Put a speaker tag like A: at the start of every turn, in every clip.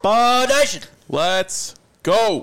A: Football Nation.
B: Let's go.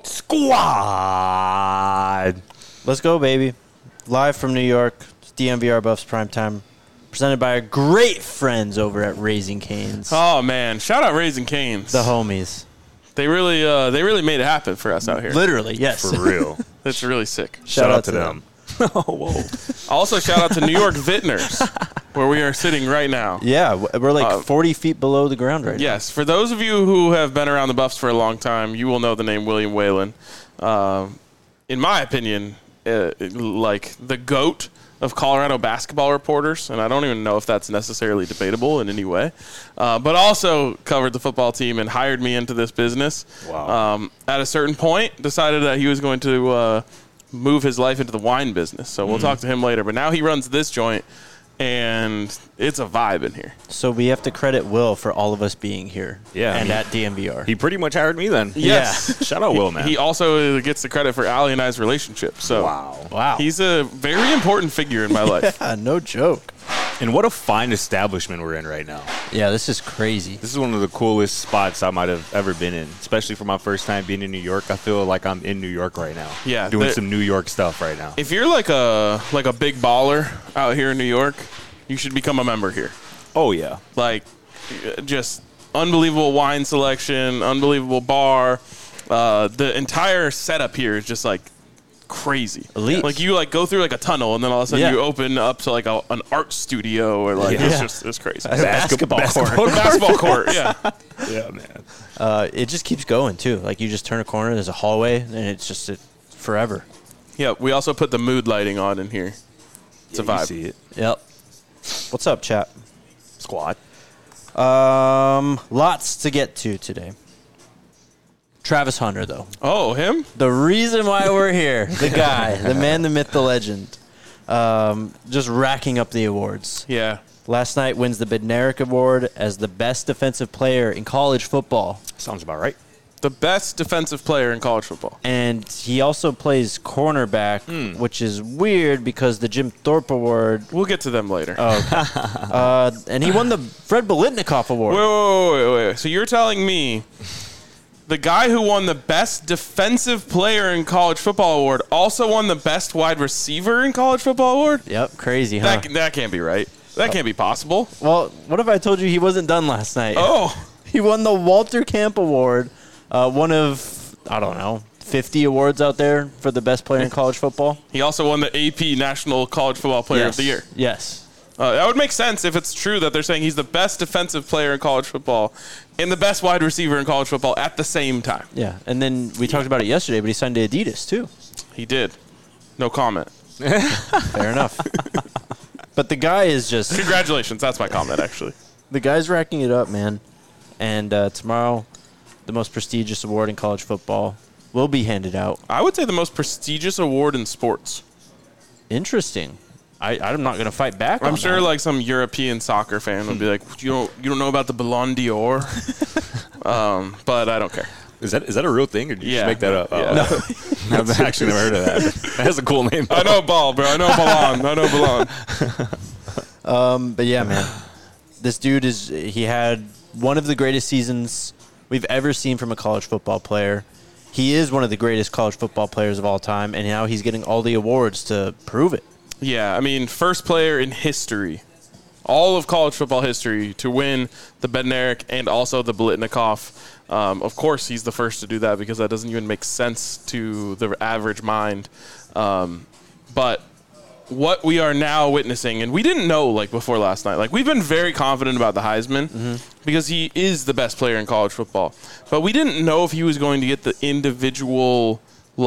C: Squad.
A: Let's go, baby. Live from New York, it's DNVR Buffs Primetime, presented by our great friends over at Raising Cane's.
B: Oh, man. Shout out Raising Cane's.
A: The homies.
B: They really made it happen for us out here.
A: Literally, yes.
C: For real.
B: That's really sick.
C: Shout out to them.
A: Oh, whoa.
B: Also, shout out to New York Vintners, where we are sitting right now.
A: Yeah, we're like 40 feet below the ground right
B: Yes, for those of you who have been around the Buffs for a long time, you will know the name William Whalen. In my opinion, like the GOAT of Colorado basketball reporters, and I don't even know if that's necessarily debatable in any way, but also covered the football team and hired me into this business.
C: Wow.
B: At a certain point, decided that he was going to move his life into the wine business. So we'll talk to him later. But now he runs this joint, and it's a vibe in here.
A: So we have to credit Will for all of us being here.
C: Yeah,
A: And at DNVR.
C: He pretty much hired me then.
B: Yes.
C: Shout out Will, man.
B: He also gets the credit for Allie and I's relationship. So
A: Wow.
B: he's a very important figure in my life.
A: No joke.
C: And what a fine establishment we're in right now.
A: Yeah, this is crazy.
C: This is one of the coolest spots I might have ever been in, especially for my first time being in New York. I feel like I'm in New York right now.
B: Yeah,
C: doing some New York stuff right now.
B: If you're like a big baller out here in New York, you should become a member here.
C: Oh, yeah.
B: Like, just unbelievable wine selection, unbelievable bar. The entire setup here is just like crazy.
A: Elite.
B: Like you like go through like a tunnel and then all of a sudden
A: Yeah.
B: you open up to like an art studio or like it's crazy.
A: Basketball court.
B: Basketball court, yeah.
C: Yeah, man.
A: It just keeps going, too. Like, you just turn a corner, there's a hallway, and it's just forever.
B: Yeah, we also put the mood lighting on in here. It's a
C: You
B: vibe.
C: see it.
A: Yep. What's up, chat?
C: Squad.
A: Lots to get to today. Travis Hunter, though.
B: Oh, him?
A: The reason why we're here, the guy, the man, the myth, the legend, just racking up the awards.
B: Yeah.
A: Last night wins the Bednarik Award as the best defensive player in college football.
C: Sounds about right.
B: The best defensive player in college football.
A: And he also plays cornerback, which is weird because the Jim Thorpe Award.
B: We'll get to them later.
A: Oh, okay. And he won the Fred Biletnikoff Award.
B: Wait. So you're telling me the guy who won the best defensive player in college football award also won the best wide receiver in college football award?
A: Yep, crazy, huh?
B: That can't be right. That can't be possible.
A: Well, what if I told you he wasn't done last night?
B: Oh.
A: He won the Walter Camp Award, one of, 50 awards out there for the best player in college football.
B: He also won the AP National College Football Player of the Year.
A: Yes.
B: That would make sense if it's true that they're saying he's the best defensive player in college football and the best wide receiver in college football at the same time.
A: Yeah, and then we talked about it yesterday, but he signed to Adidas, too.
B: He did. No comment.
A: Fair enough. But the guy is just...
B: Congratulations. That's my comment, actually.
A: The guy's racking it up, man. And tomorrow, the most prestigious award in college football will be handed out.
B: I would say the most prestigious award in sports.
A: Interesting. I'm not going to fight back on
B: I'm sure
A: that.
B: like some European soccer fan would be like, you don't know about the Ballon d'Or? But I don't care.
C: Is that a real thing, or did you
B: Yeah.
C: just make that up?
B: Yeah.
C: No. I've actually never heard of that. That has a cool name.
B: I know ball, bro. I know Ballon. I know Ballon.
A: But yeah, man. This dude he had one of the greatest seasons we've ever seen from a college football player. He is one of the greatest college football players of all time, and now he's getting all the awards to prove it.
B: Yeah, I mean, first player in history, all of college football history, to win the Bednarik and also the Biletnikoff. Of course, he's the first to do that because that doesn't even make sense to the average mind. But what we are now witnessing, and we didn't know like before last night, like we've been very confident about the Heisman because he is the best player in college football. But we didn't know if he was going to get the individual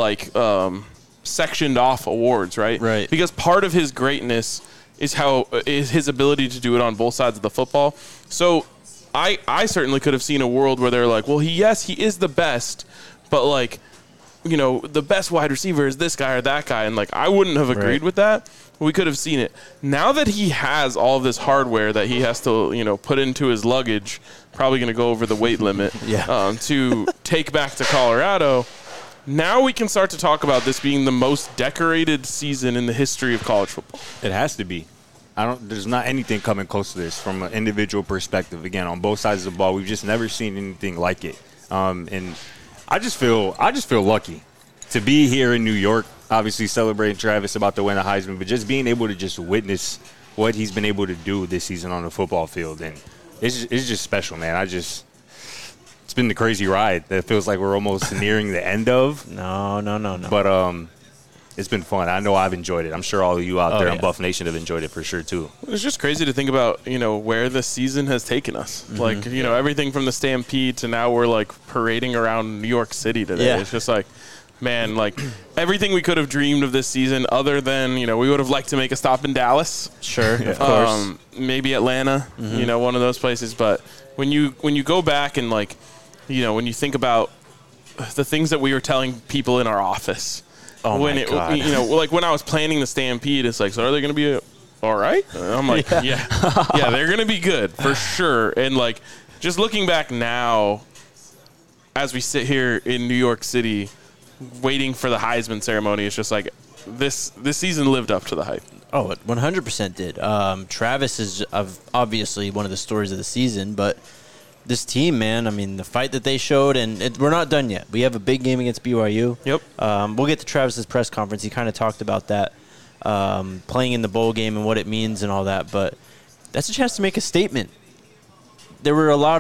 B: sectioned off awards, right?
A: Right.
B: Because part of his greatness is his ability to do it on both sides of the football. So I certainly could have seen a world where they're like, well, he is the best, but like, the best wide receiver is this guy or that guy. And like, I wouldn't have agreed with that. We could have seen it. Now that he has all of this hardware that he has to, put into his luggage, probably going to go over the weight limit to take back to Colorado. Now we can start to talk about this being the most decorated season in the history of college football.
C: It has to be. There's not anything coming close to this from an individual perspective. Again, on both sides of the ball, we've just never seen anything like it. And I just feel lucky to be here in New York, obviously celebrating Travis about to win the Heisman, but just being able to just witness what he's been able to do this season on the football field. And it's just special, man. It's been the crazy ride that feels like we're almost nearing the end of.
A: No.
C: But it's been fun. I know I've enjoyed it. I'm sure all of you out there in
A: yeah.
C: Buff Nation have enjoyed it for sure, too.
B: It's just crazy to think about, where the season has taken us.
A: Mm-hmm.
B: Like, everything from the Stampede to now we're, like, parading around New York City today.
A: Yeah.
B: It's just like, man, like, everything we could have dreamed of this season other than, we would have liked to make a stop in Dallas.
A: Sure, of course.
B: Maybe Atlanta, one of those places. But when you go back and, like, when you think about the things that we were telling people in our office.
A: Oh
B: when
A: my God.
B: Like when I was planning the Stampede, it's like, so are they going to be all right? And I'm like, yeah, they're going to be good for sure. And like, just looking back now, as we sit here in New York City, waiting for the Heisman ceremony, it's just like this season lived up to the hype.
A: Oh, it 100% did. Travis is obviously one of the stories of the season, but this team, man, I mean, the fight that they showed, and we're not done yet. We have a big game against BYU.
B: Yep.
A: We'll get to Travis's press conference. He kind of talked about that, playing in the bowl game and what it means and all that. But that's a chance to make a statement. There was a lot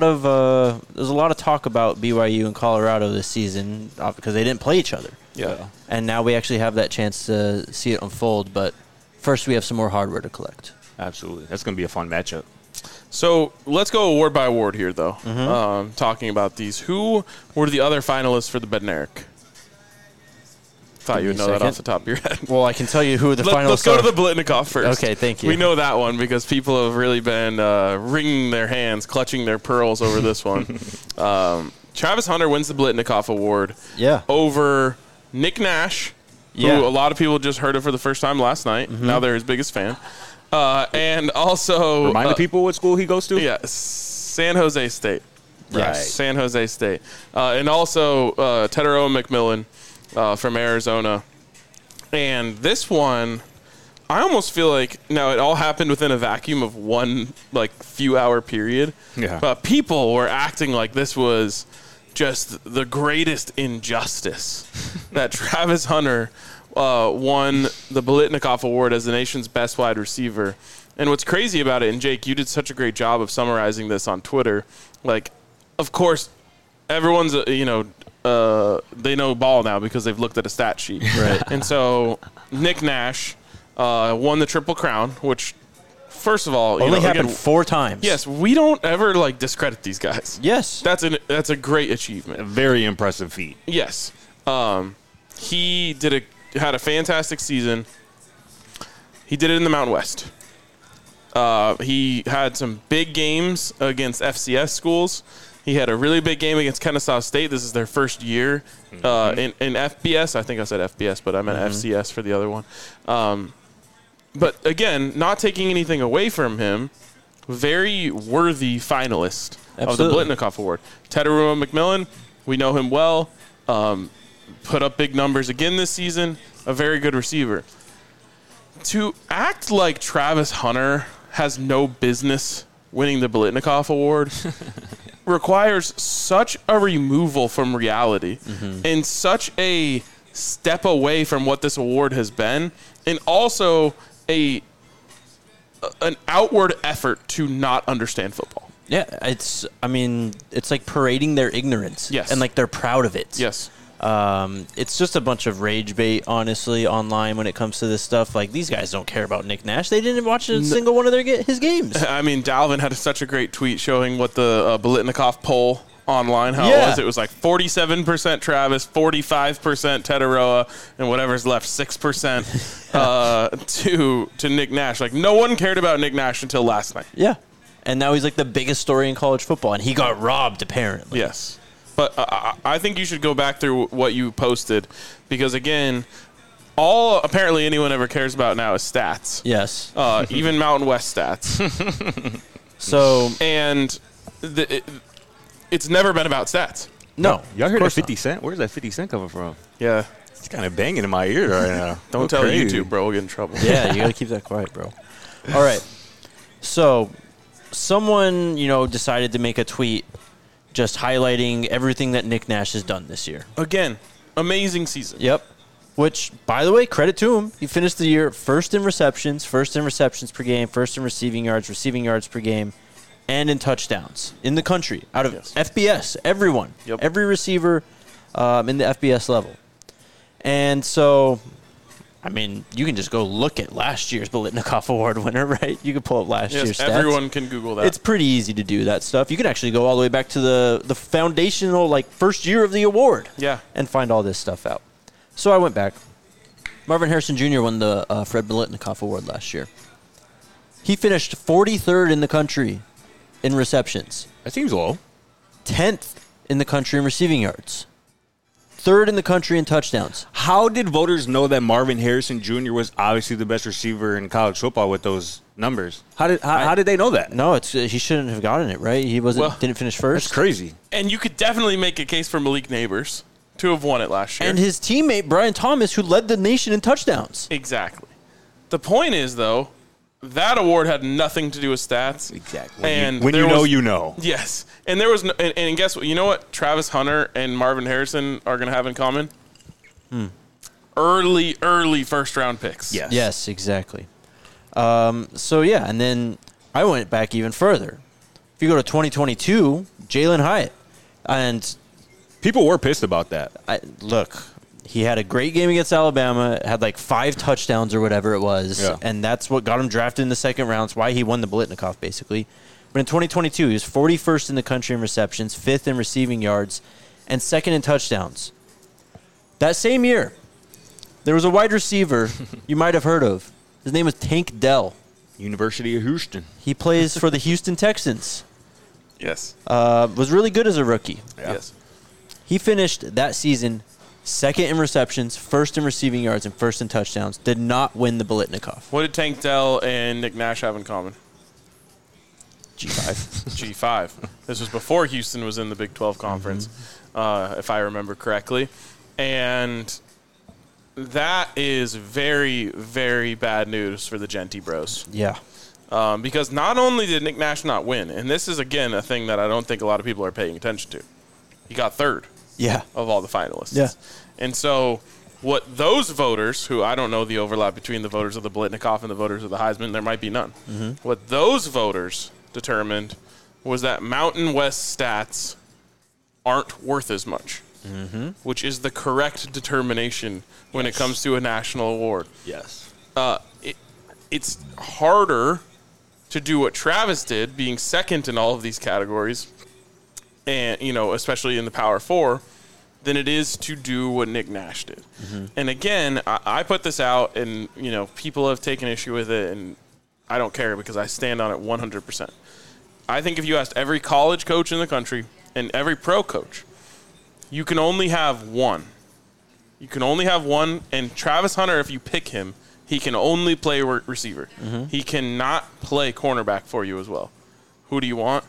A: of talk about BYU and Colorado this season because they didn't play each other.
B: Yeah.
A: And now we actually have that chance to see it unfold. But first, we have some more hardware to collect.
C: Absolutely. That's going to be a fun matchup.
B: So let's go award by award here, though. Talking about these, who were the other finalists for the Bednarik? Thought you would know that off the top of your head.
A: Well, I can tell you who the finalists are.
B: Let's go to the Biletnikoff first.
A: Okay, thank you.
B: We know that one because people have really been wringing their hands, clutching their pearls over this one. Travis Hunter wins the Biletnikoff Award over Nick Nash, who a lot of people just heard of for the first time last night. Now they're his biggest fan. And also
C: remind the people what school he goes to.
B: Yeah, San Jose State.
C: Right.
B: San Jose State. And also Teteroa McMillan from Arizona. And this one, I almost feel like now it all happened within a vacuum of one few hour period.
C: Yeah.
B: But people were acting like this was just the greatest injustice that Travis Hunter won the Biletnikoff Award as the nation's best wide receiver. And what's crazy about it, and Jake, you did such a great job of summarizing this on Twitter. Like, of course, everyone's, they know ball now because they've looked at a stat sheet.
A: Right.
B: And so Nick Nash won the Triple Crown, which, first of all,
A: only happened 4 times.
B: Yes, we don't ever discredit these guys.
A: Yes.
B: That's a great achievement.
C: A very impressive feat.
B: Yes. He had a fantastic season. He did it in the Mountain West. He had some big games against FCS schools. He had a really big game against Kennesaw State. This is their first year in FBS. I think I said FBS, but I meant FCS for the other one. But again, not taking anything away from him, very worthy finalist of the Biletnikoff Award. Teteroa McMillan, we know him well. Put up big numbers again this season. A very good receiver. To act like Travis Hunter has no business winning the Biletnikoff Award requires such a removal from reality and such a step away from what this award has been, and also an outward effort to not understand football.
A: Yeah, it's like parading their ignorance.
B: Yes.
A: And they're proud of it.
B: Yes.
A: It's just a bunch of rage bait, honestly, online when it comes to this stuff. These guys don't care about Nick Nash. They didn't watch a single one of his games.
B: I mean, Dalvin had such a great tweet showing what the Biletnikoff poll online, how it was. It was 47% Travis, 45% Teteroa, and whatever's left, 6% to Nick Nash. No one cared about Nick Nash until last night.
A: Yeah. And now he's the biggest story in college football, and he got robbed, apparently.
B: Yes. But I think you should go back through what you posted because, again, all apparently anyone ever cares about now is stats.
A: Yes.
B: Even Mountain West stats. And it's never been about stats.
A: No.
C: Y'all heard that 50 Cent? Where's that 50 Cent coming from?
B: Yeah.
C: It's kind of banging in my ear right now.
B: Don't tell YouTube, bro. We'll get in trouble.
A: Yeah, you got to keep that quiet, bro. All right. So someone, decided to make a tweet just highlighting everything that Nick Nash has done this year.
B: Again, amazing season.
A: Yep. Which, by the way, credit to him. He finished the year first in receptions per game, first in receiving yards per game, and in touchdowns in the country out of FBS. Everyone, every receiver in the FBS level. And so, I mean, you can just go look at last year's Biletnikoff Award winner, right? You can pull up last year's stats.
B: Everyone can Google that.
A: It's pretty easy to do that stuff. You can actually go all the way back to the foundational, first year of the award.
B: Yeah.
A: And find all this stuff out. So I went back. Marvin Harrison Jr. won the Fred Biletnikoff Award last year. He finished 43rd in the country in receptions.
C: That seems low.
A: 10th in the country in receiving yards. 3rd in the country in touchdowns.
C: How did voters know that Marvin Harrison Jr. was obviously the best receiver in college football with those numbers? How did they know that?
A: No, he shouldn't have gotten it, right? He didn't finish first.
C: That's crazy.
B: And you could definitely make a case for Malik Neighbors to have won it last year.
A: And his teammate, Brian Thomas, who led the nation in touchdowns.
B: Exactly. The point is, though, that award had nothing to do with stats.
C: Exactly.
B: And
C: when you know, you know.
B: Yes. And there was no, and guess what? You know what Travis Hunter and Marvin Harrison are going to have in common? Early first-round picks.
C: Yes.
A: Yes, exactly. So, yeah, and then I went back even further. If you go to 2022, Jalen Hyatt. And
C: people were pissed about that.
A: Look, he had a great game against Alabama, had 5 touchdowns or whatever it was, and that's what got him drafted in the second round. It's why he won the Biletnikoff, basically. But in 2022, he was 41st in the country in receptions, 5th in receiving yards, and 2nd in touchdowns. That same year, there was a wide receiver you might have heard of. His name was Tank Dell.
C: University of Houston.
A: He plays for the Houston Texans.
B: Yes.
A: Was really good as a rookie.
C: Yeah.
B: Yes.
A: He finished that season 2nd in receptions, 1st in receiving yards, and 1st in touchdowns. Did not win the Biletnikoff.
B: What did Tank Dell and Nick Nash have in common?
A: G5.
B: G5. This was before Houston was in the Big 12 Conference, if I remember correctly. And that is very, very bad news for the Genty Bros.
A: Yeah.
B: Because not only did Nick Nash not win, and this is, again, a thing that I don't think a lot of people are paying attention to, he got 3rd.
A: Yeah.
B: Of all the finalists.
A: Yeah.
B: And so what those voters, who I don't know the overlap between the voters of the Biletnikoff and the voters of the Heisman, there might be none. What those voters determined was that Mountain West stats aren't worth as much, which is the correct determination when it comes to a national award.
C: Yes.
B: It's harder to do what Travis did, being 2nd in all of these categories, and especially in the Power 4, than it is to do what Nick Nash did. And again, I put this out, and people have taken issue with it, and I don't care because I stand on it 100%. I think if you asked every college coach in the country and every pro coach, you can only have one. You can only have one, and Travis Hunter, if you pick him, he can only play receiver. He cannot play cornerback for you as well. Who do you want?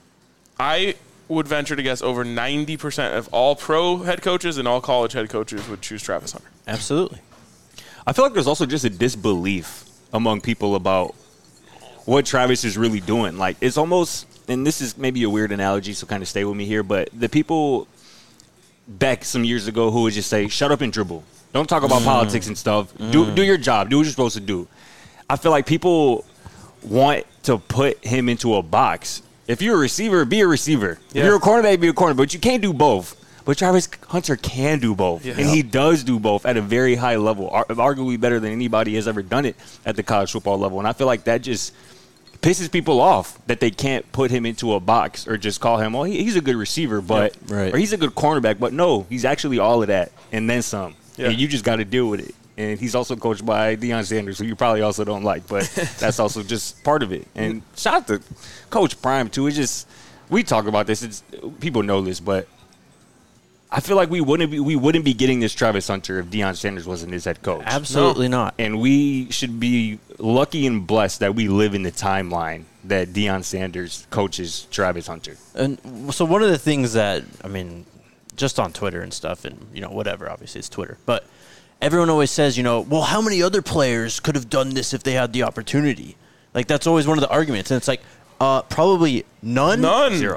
B: I would venture to guess over 90% of all pro head coaches and all college head coaches would choose Travis Hunter.
A: Absolutely.
C: I feel like there's also just a disbelief among people about what Travis is really doing. It's almost, and this is maybe a weird analogy, so kind of stay with me here, but the people back some years ago who would just say, shut up and dribble. Don't talk about politics and stuff. Do your job. Do what you're supposed to do. I feel like people want to put him into a box. If you're a receiver, be a receiver.
B: Yeah.
C: If you're a cornerback, be a cornerback. But you can't do both. But Travis Hunter can do both.
B: Yeah.
C: And he does do both at a very high level, arguably better than anybody has ever done it at the college football level. And I feel like that just pisses people off that they can't put him into a box or just call him, well, he's a good receiver, but or he's a good cornerback. But no, he's actually all of that and then some. Yeah. And you just got to deal with it. And he's also coached by Deion Sanders, who you probably also don't like, but that's also just part of it. And shout out to Coach Prime, too. It's just, we talk about this. People know this, but I feel like we wouldn't be getting this Travis Hunter if Deion Sanders wasn't his head coach.
A: Absolutely not.
C: And we should be lucky and blessed that we live in the timeline that Deion Sanders coaches Travis Hunter.
A: And so one of the things that, just on Twitter and stuff and, whatever, obviously it's Twitter, but everyone always says, well, how many other players could have done this if they had the opportunity? That's always one of the arguments. And it's probably none.
B: None.
C: Zero.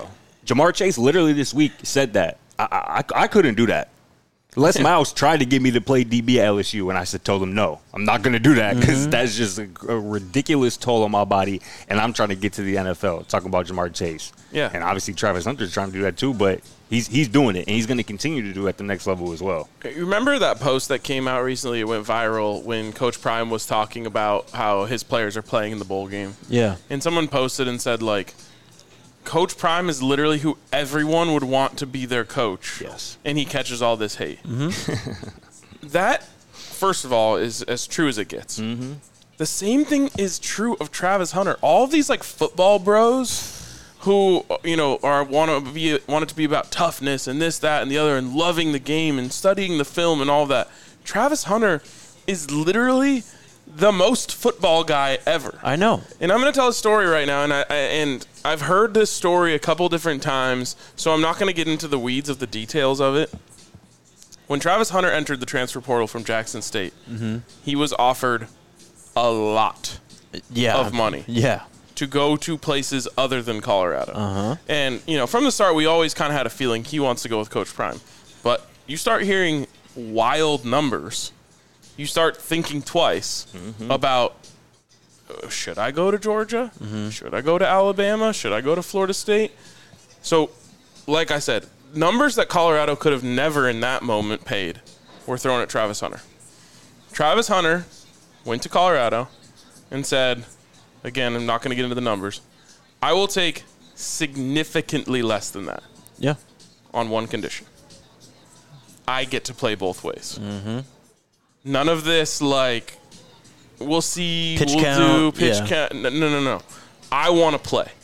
C: Jamar Chase literally this week said that. I couldn't do that. Les Miles tried to get me to play DB at LSU, and I told him, no, I'm not going to do that because that's just a ridiculous toll on my body, and I'm trying to get to the NFL, talking about Jamar Chase.
B: Yeah.
C: And obviously Travis Hunter's trying to do that too, but he's doing it, and he's going to continue to do it at the next level as well.
B: You remember that post that came out recently? It went viral when Coach Prime was talking about how his players are playing in the bowl game.
A: Yeah.
B: And someone posted and said, like, Coach Prime is literally who everyone would want to be their coach.
C: Yes.
B: And he catches all this hate. That, first of all, is as true as it gets. The same thing is true of Travis Hunter. All of these, like, football bros who, you know, want it to be about toughness and this, that, and the other, and loving the game and studying the film and all that. Travis Hunter is literally the most football guy ever.
A: I know.
B: And I'm going to tell a story right now, and I've heard this story a couple different times, so I'm not going to get into the weeds of the details of it. When Travis Hunter entered the transfer portal from Jackson State, he was offered a lot of money to go to places other than Colorado. And, you know, from the start, we always kind of had a feeling he wants to go with Coach Prime. But you start hearing wild numbers. You start thinking twice about, should I go to Georgia? Should I go to Alabama? Should I go to Florida State? So, like I said, numbers that Colorado could have never in that moment paid were thrown at Travis Hunter. Travis Hunter went to Colorado and said, again, I'm not going to get into the numbers, I will take significantly less than that.
A: Yeah.
B: On one condition. I get to play both ways. None of this, like, we'll see,
A: pitch
B: we'll
A: count,
B: do, pitch count. No. I want to play.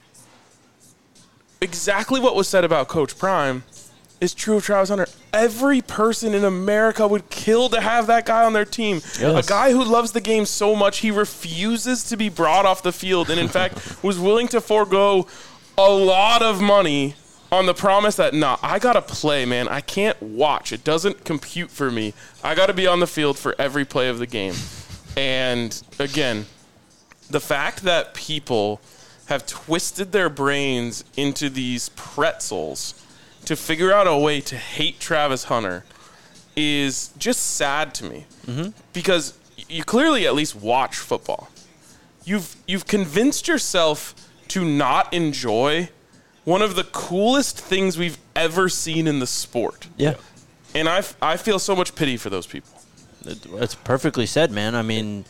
B: Exactly what was said about Coach Prime is true of Travis Hunter. Every person in America would kill to have that guy on their team.
A: Yes.
B: A guy who loves the game so much, he refuses to be brought off the field and, in fact, was willing to forego a lot of money on the promise that, I got to play, man. I can't watch. It doesn't compute for me. I got to be on the field for every play of the game. And, again, the fact that people have twisted their brains into these pretzels to figure out a way to hate Travis Hunter is just sad to me. Because you clearly at least watch football. You've convinced yourself to not enjoy one of the coolest things we've ever seen in the sport.
A: Yeah.
B: And I feel so much pity for those people.
A: That's perfectly said, man. I mean,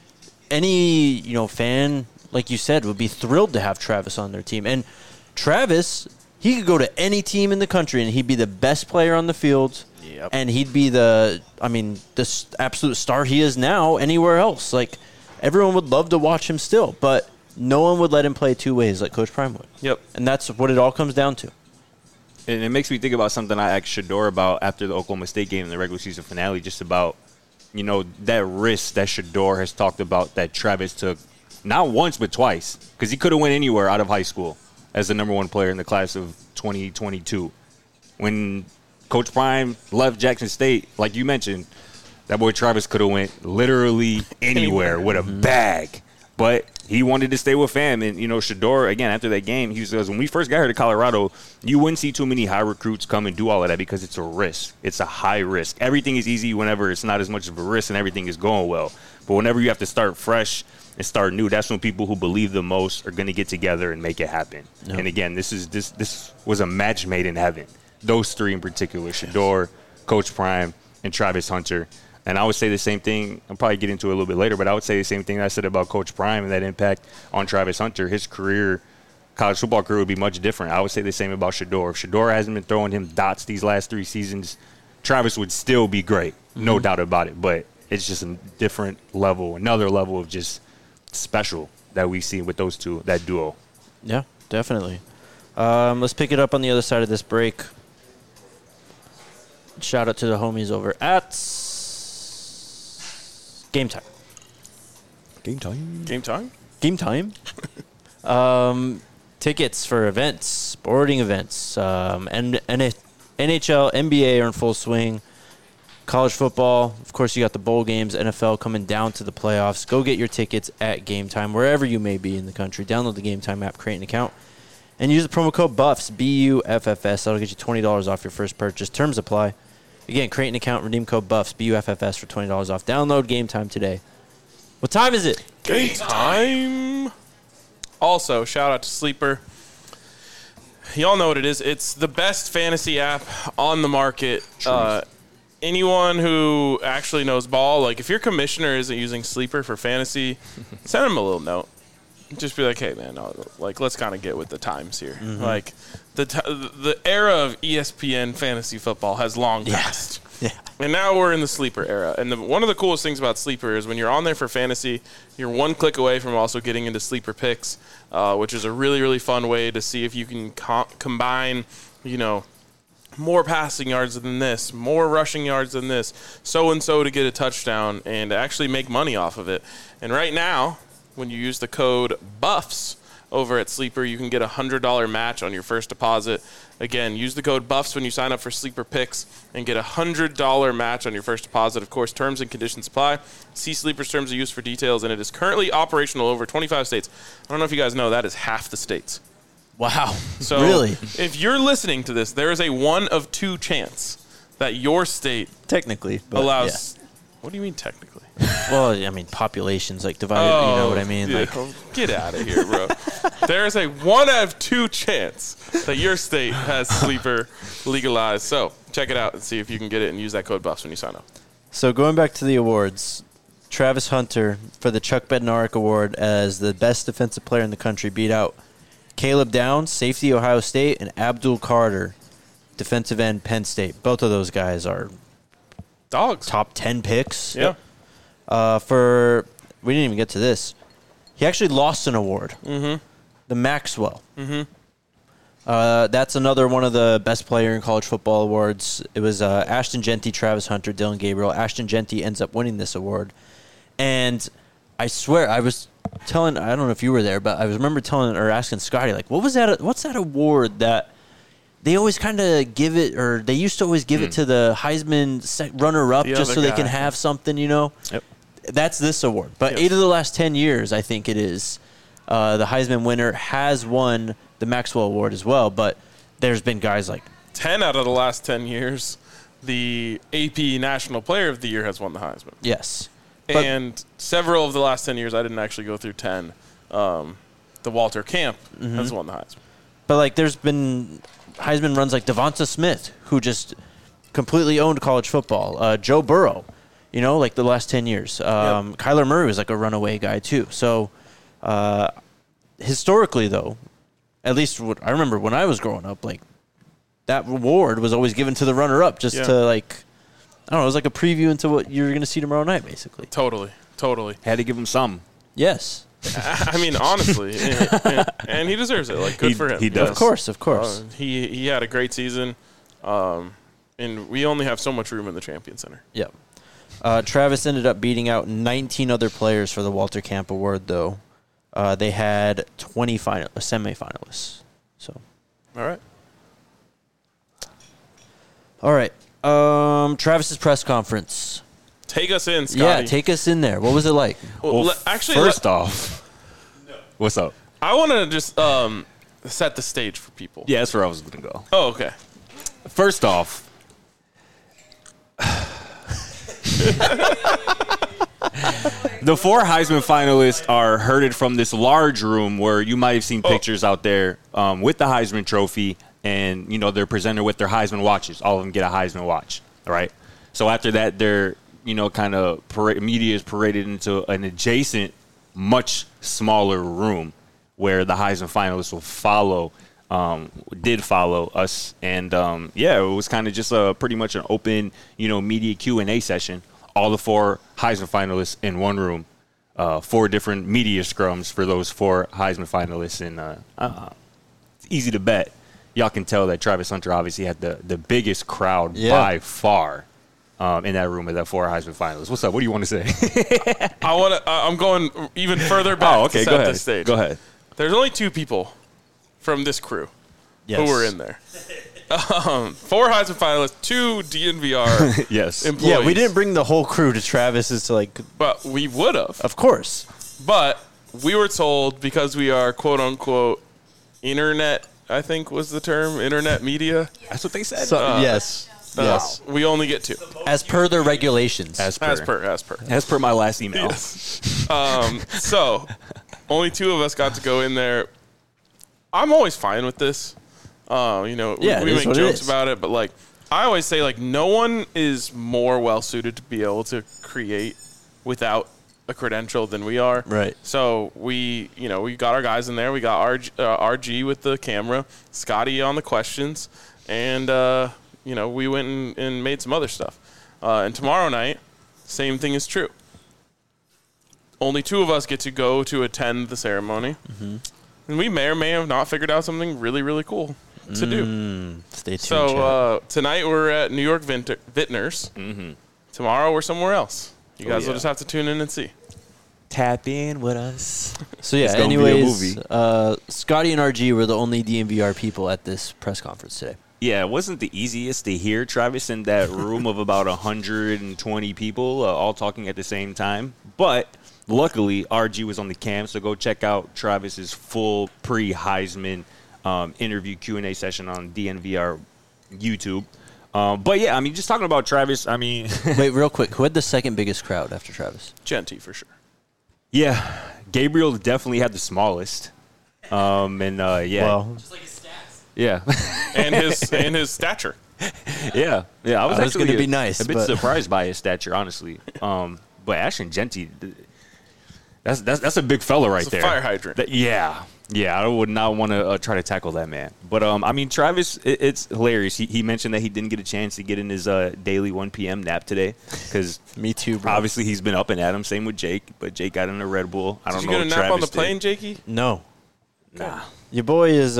A: any, fan, like you said, would be thrilled to have Travis on their team. And Travis, he could go to any team in the country and he'd be the best player on the field.
C: Yep.
A: And he'd be the absolute star he is now anywhere else. Like, everyone would love to watch him still, but no one would let him play two ways like Coach Prime would.
B: Yep.
A: And that's what it all comes down to.
C: And it makes me think about something I asked Shedeur about after the Oklahoma State game in the regular season finale, just about, that risk that Shedeur has talked about that Travis took, not once but twice, because he could have went anywhere out of high school as the number one player in the class of 2022. When Coach Prime left Jackson State, like you mentioned, that boy Travis could have went literally anywhere with a bag. But he wanted to stay with fam. And, Shedeur, again, after that game, he says, when we first got here to Colorado, you wouldn't see too many high recruits come and do all of that because it's a risk. It's a high risk. Everything is easy whenever it's not as much of a risk and everything is going well. But whenever you have to start fresh and start new, that's when people who believe the most are going to get together and make it happen. Yep. And, again, this was a match made in heaven. Those three in particular, Shedeur, Coach Prime, and Travis Hunter. And I would say the same thing. I'll probably get into it a little bit later, but I would say the same thing I said about Coach Prime and that impact on Travis Hunter. His career, college football career, would be much different. I would say the same about Shedeur. If Shedeur hasn't been throwing him dots these last 3 seasons, Travis would still be great, no doubt about it. But it's just a different level, another level of just special that we see with those two, that duo.
A: Yeah, definitely. Let's pick it up on the other side of this break. Shout out to the homies over at Game Time.
C: Game time.
B: Game time?
A: Game time. Tickets for events, sporting events, and NHL, NBA are in full swing. College football, of course, you got the bowl games, NFL coming down to the playoffs. Go get your tickets at Game Time, wherever you may be in the country. Download the Game Time app, create an account, And use the promo code BUFFS, BUFFS. That'll get you $20 off your first purchase. Terms apply. Again, create an account, redeem code BUFFS, BUFFS for $20 off. Download Game Time today. What time is it?
B: Game time. Also, shout out to Sleeper. Y'all know what it is. It's the best fantasy app on the market. Anyone who actually knows ball, like if your commissioner isn't using Sleeper for fantasy, send him a little note. Just be like, hey, man, like let's kind of get with the times here.
A: Mm-hmm.
B: Like the era of ESPN fantasy football has long passed.
A: Yeah.
B: And now we're in the Sleeper era. And one of the coolest things about Sleeper is when you're on there for fantasy, you're one click away from also getting into Sleeper Picks, which is a really, really fun way to see if you can combine, more passing yards than this, more rushing yards than this, so-and-so to get a touchdown and actually make money off of it. And right now, when you use the code BUFFS over at Sleeper, you can get a $100 match on your first deposit. Again, use the code BUFFS when you sign up for Sleeper Picks and get a $100 match on your first deposit. Of course, terms and conditions apply. See Sleeper's terms of use for details, and it is currently operational over 25 states. I don't know if you guys know, that is half the states.
A: Wow.
B: So
A: really?
B: If you're listening to this, there is a 1 of 2 chance that your state
A: Technically. But
B: allows. Yeah. What do you mean technically?
A: Well, I mean, populations like divided, you know what I mean?
B: Yeah.
A: Like,
B: Get out of here, bro. There is a 1 out of 2 chance that your state has Sleeper legalized. So check it out and see if you can get it and use that code BUFFS when you sign up.
A: So going back to the awards, Travis Hunter for the Chuck Bednarik Award as the best defensive player in the country beat out Caleb Downs, safety Ohio State, and Abdul Carter, defensive end Penn State. Both of those guys are
B: dogs.
A: Top 10 picks.
B: Yeah.
A: We didn't even get to this. He actually lost an award.
B: Mm-hmm.
A: The Maxwell. Mm-hmm. That's another one of the best player in college football awards. It was Ashton Genty, Travis Hunter, Dylan Gabriel. Ashton Genty ends up winning this award. And I swear, I was telling, I don't know if you were there, but I remember telling or asking Scotty, like, what's that award that they always kind of give it, or they used to always give it to the Heisman runner-up just so they can have something, Yep. That's this award. But 8 of the last 10 years, I think it is, the Heisman winner has won the Maxwell Award as well. But there's been guys like
B: 10 out of the last 10 years, the AP National Player of the Year has won the Heisman.
A: Yes.
B: And several of the last 10 years, I didn't actually go through 10. The Walter Camp has won the Heisman.
A: But, like, there's been Heisman runs like Devonta Smith, who just completely owned college football. Joe Burrow, like the last 10 years. Kyler Murray was like a runaway guy, too. So, historically, though, at least what I remember when I was growing up, like, that award was always given to the runner-up just to, like, I don't know, it was like a preview into what you're going to see tomorrow night, basically.
B: Totally.
C: Had to give him some.
A: Yes.
B: I mean, honestly, and he deserves it. Like, good for him.
C: He does.
A: Of course.
B: He had a great season, and we only have so much room in the Champion Center.
A: Yep. Travis ended up beating out 19 other players for the Walter Camp Award, though. They had 20 semifinalists. So. All right. Travis's press conference.
B: Take us in, Scotty.
A: Yeah, take us in there. What was it like?
B: Well,
C: first off, what's up?
B: I want to just set the stage for people.
C: Yeah, that's where I was going to go.
B: Oh, okay.
C: First off, the 4 Heisman finalists are herded from this large room where you might have seen pictures out there with the Heisman Trophy, and they're presented with their Heisman watches. All of them get a Heisman watch, right? So after that, they're kind of media is paraded into an adjacent, much smaller room where the Heisman finalists did follow us, and it was kind of just pretty much an open, media Q&A session. All the 4 Heisman finalists in one room, 4 different media scrums for those 4 Heisman finalists, and it's easy to bet. Y'all can tell that Travis Hunter obviously had the biggest crowd by far in that room of that 4 Heisman finalists. What's up? What do you want to say?
B: I'm going even further back to set the stage.
C: Go ahead.
B: There's only 2 people from this crew who were in there. 4 Heisman finalists, 2 DNVR
C: yes.
B: employees.
A: Yeah, we didn't bring the whole crew to Travis's to
B: But we would have.
A: Of course.
B: But we were told because we are quote unquote internet I think was the term, internet media.
C: That's what they said.
A: So, yes. Yes.
B: We only get 2.
A: As per their regulations.
B: As per
C: my last email.
B: So, only 2 of us got to go in there. I'm always fine with this. We make jokes about it, but like I always say, like no one is more well suited to be able to create without a credential than we are.
A: Right.
B: So we got our guys in there. We got RG with the camera, Scotty on the questions, and we went and made some other stuff. And tomorrow night, same thing is true. Only 2 of us get to go to attend the ceremony. Mm-hmm. And we may or may have not figured out something really, really cool to do.
A: Stay tuned.
B: So tonight we're at New York Vintners. Mm-hmm. Tomorrow we're somewhere else. You guys will just have to tune in and see.
C: Tap in with us.
A: So yeah, anyways, Scotty and RG were the only DNVR people at this press conference today.
C: Yeah, it wasn't the easiest to hear Travis in that room of about 120 people all talking at the same time. But luckily, RG was on the cam, so go check out Travis's full pre-Heisman interview Q&A session on DNVR YouTube. But yeah, I mean, just talking about Travis, I mean...
A: Wait, real quick. Who had the second biggest crowd after Travis?
B: Genty, for sure.
C: Yeah, Gabriel definitely had the smallest. Yeah.
A: Well,
D: just like his stats.
C: Yeah.
B: and his stature.
C: Yeah. I was actually
A: going to be nice.
C: A bit surprised by his stature, honestly. But Ashton Genty, that's a big fella right
B: it's
C: there.
B: Fire hydrant.
C: Yeah, I would not want to try to tackle that man. But I mean, Travis, it's hilarious. He mentioned that he didn't get a chance to get in his daily 1 p.m. nap today because
A: me too, bro.
C: Obviously, he's been up and at him. Same with Jake, but Jake got in a Red Bull. I don't know.
B: Did you get a nap
C: Travis
B: on the plane, Jakey?
A: No.
C: Nah.
A: Your boy is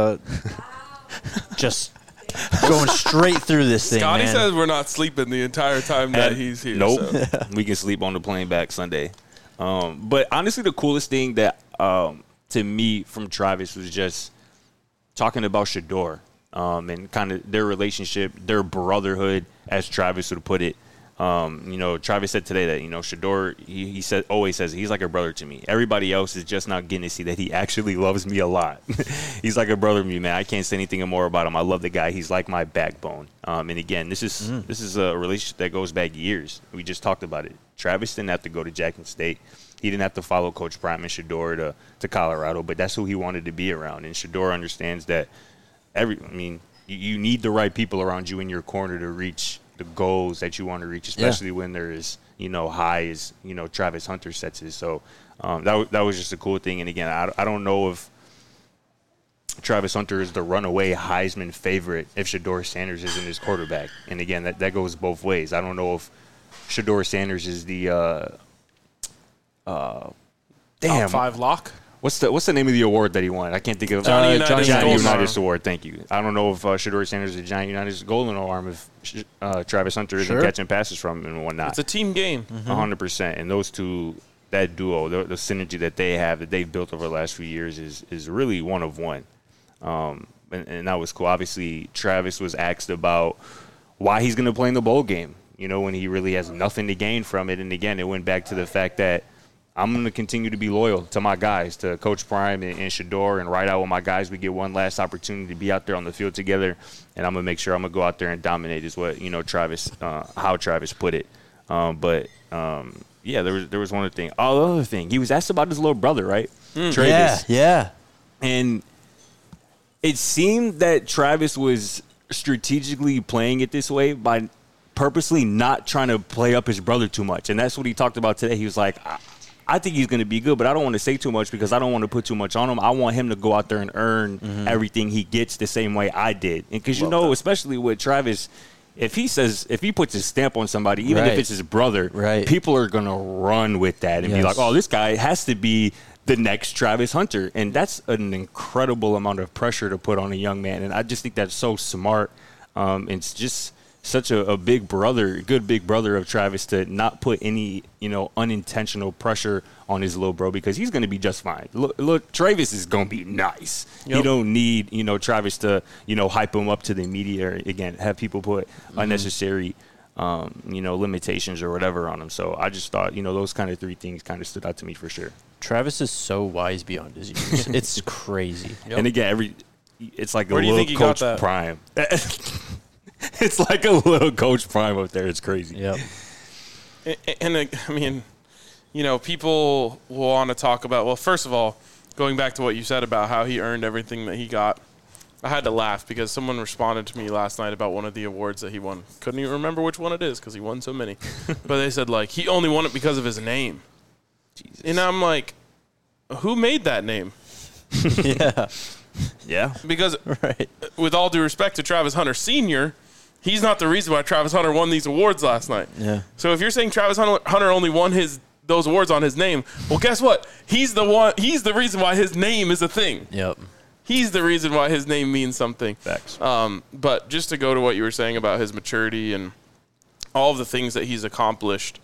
A: just going straight through this thing.
B: Scotty
A: man.
B: says we're not sleeping the entire time that he's here.
C: Nope.
B: So.
C: We can sleep on the plane back Sunday. But honestly, the coolest thing that to me from Travis was just talking about Shedeur and kind of their relationship, their brotherhood, as Travis would put it. Travis said today that, Shedeur, he always says he's like a brother to me. Everybody else is just not getting to see that he actually loves me a lot. He's like a brother to me, man. I can't say anything more about him. I love the guy. He's like my backbone. And again, this is a relationship that goes back years. We just talked about it. Travis didn't have to go to Jackson State. He didn't have to follow Coach Prime and Shedeur to Colorado, but that's who he wanted to be around. And Shedeur understands that you need the right people around you in your corner to reach the goals that you want to reach, especially when there is, high as, Travis Hunter sets it. So that was just a cool thing. And again, I don't know if Travis Hunter is the runaway Heisman favorite if Shedeur Sanders isn't his quarterback. And again, that goes both ways. I don't know if Shedeur Sanders is the
B: Top 5 lock.
C: What's the name of the award that he won? I can't think of
B: Johnny
C: Johnny
B: Unitas
C: Unitas Award. Thank you. I don't know if Shedeur Sanders is the Johnny Unitas Golden Arm if Travis Hunter isn't catching passes from him and whatnot.
B: It's a team game.
C: 100%. And those two, that duo, the synergy that they have, that they've built over the last few years is really one of one. And that was cool. Obviously, Travis was asked about why he's going to play in the bowl game, when he really has nothing to gain from it. And again, it went back to the fact that I'm going to continue to be loyal to my guys, to Coach Prime and Shedeur, and ride out with my guys. We get one last opportunity to be out there on the field together, and I'm going to make sure I'm going to go out there and dominate is what, Travis, how Travis put it. Yeah, there was one other thing. Oh, the other thing, he was asked about his little brother, right? Travis.
A: Yeah.
C: And it seemed that Travis was strategically playing it this way by purposely not trying to play up his brother too much. And that's what he talked about today. He was like, I think he's going to be good, but I don't want to say too much because I don't want to put too much on him. I want him to go out there and earn everything he gets the same way I did. And because, especially with Travis, if he puts his stamp on somebody, even if it's his brother, people are going to run with that and be like, oh, this guy has to be the next Travis Hunter. And that's an incredible amount of pressure to put on a young man. And I just think that's so smart. It's just such a big brother, good big brother of Travis to not put any, unintentional pressure on his little bro because he's going to be just fine. Look, Travis is going to be nice. Yep. You don't need, Travis to, hype him up to the media or, again, have people put unnecessary, limitations or whatever on him. So I just thought, those kind of three things kind of stood out to me for sure.
A: Travis is so wise beyond his years. It's crazy.
C: Yep. And again, it's like
B: Where
C: a
B: do you
C: little
B: think he got
C: Coach
B: that?
C: Prime. It's like a little Coach Prime up there. It's crazy.
A: Yep.
B: And I mean, you know, people will want to talk about, well, first of all, going back to what you said about how he earned everything that he got, I had to laugh because someone responded to me last night about one of the awards that he won. Couldn't even remember which one it is because he won so many. But they said, like, he only won it because of his name. Jesus. And I'm like, who made that name?
A: Yeah.
C: Yeah.
B: Because
A: Right.
B: with all due respect to Travis Hunter Sr., he's not the reason why Travis Hunter won these awards last night.
A: Yeah.
B: So if you're saying Travis Hunter only won those awards on his name, well, guess what? He's the reason why his name is a thing.
A: Yep.
B: He's the reason why his name means something.
C: Facts.
B: But just to go to what you were saying about his maturity and all of the things that he's accomplished,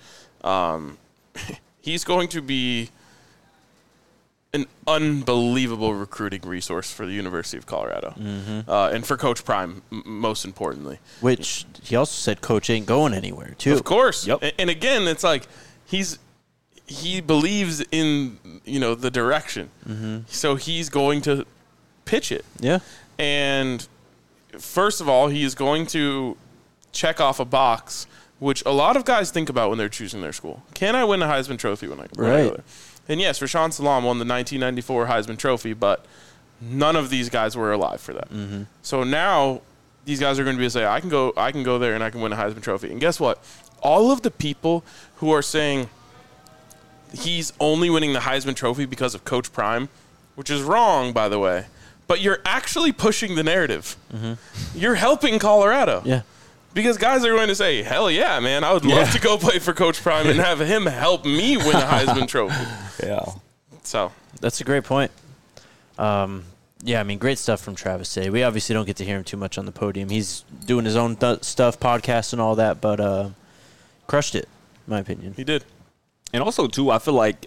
B: he's going to be an unbelievable recruiting resource for the University of Colorado. And for Coach Prime, most importantly.
A: Which he also said Coach ain't going anywhere, too.
B: Of course.
C: Yep.
B: And again, it's like he believes in, you know, the direction. So he's going to pitch it.
A: Yeah.
B: And first of all, he is going to check off a box, which a lot of guys think about when they're choosing their school. Can I win a Heisman Trophy when I go there? And yes, Rashaan Salaam won the 1994 Heisman Trophy, but none of these guys were alive for that. So now these guys are going to be able to say, I can go there and I can win a Heisman Trophy. And guess what? All of the people who are saying he's only winning the Heisman Trophy because of Coach Prime, which is wrong, by the way, but you're actually pushing the narrative. You're helping Colorado.
A: Yeah.
B: Because guys are going to say, hell yeah, man, I would love to go play for Coach Prime and have him help me win a Heisman Trophy.
C: Yeah.
B: So
A: That's a great point. Yeah, I mean, great stuff from Travis today. We obviously don't get to hear him too much on the podium. He's doing his own stuff, podcasts and all that, but crushed it, in my opinion.
B: he did.
C: And also, too, I feel like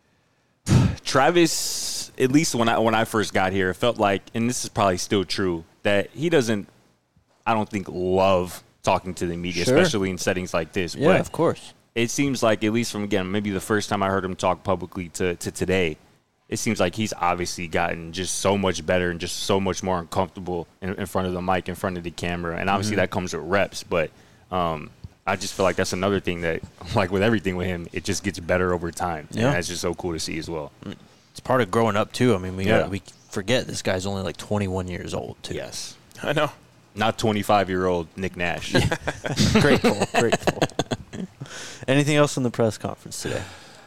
C: Travis, at least when I first got here, it felt like, and this is probably still true, that he doesn't, I don't think, love talking to the media,
A: Sure.
C: especially in settings like this.
A: Yeah,
C: But
A: of course.
C: it seems like, at least from, again, maybe the first time I heard him talk publicly to today, it seems like he's obviously gotten just so much better and just so much more uncomfortable in front of the mic, in front of the camera. And obviously that comes with reps. But I just feel like that's another thing that, like with everything with him, it just gets better over time.
A: Yeah.
C: And that's just so cool to see as well.
A: It's part of growing up, too. I mean,
C: Yeah.
A: we forget this guy's only like 21 years old, too.
C: Yes.
B: I know.
C: Not 25-year-old Nick Nash.
A: Grateful. Anything else in the press conference today?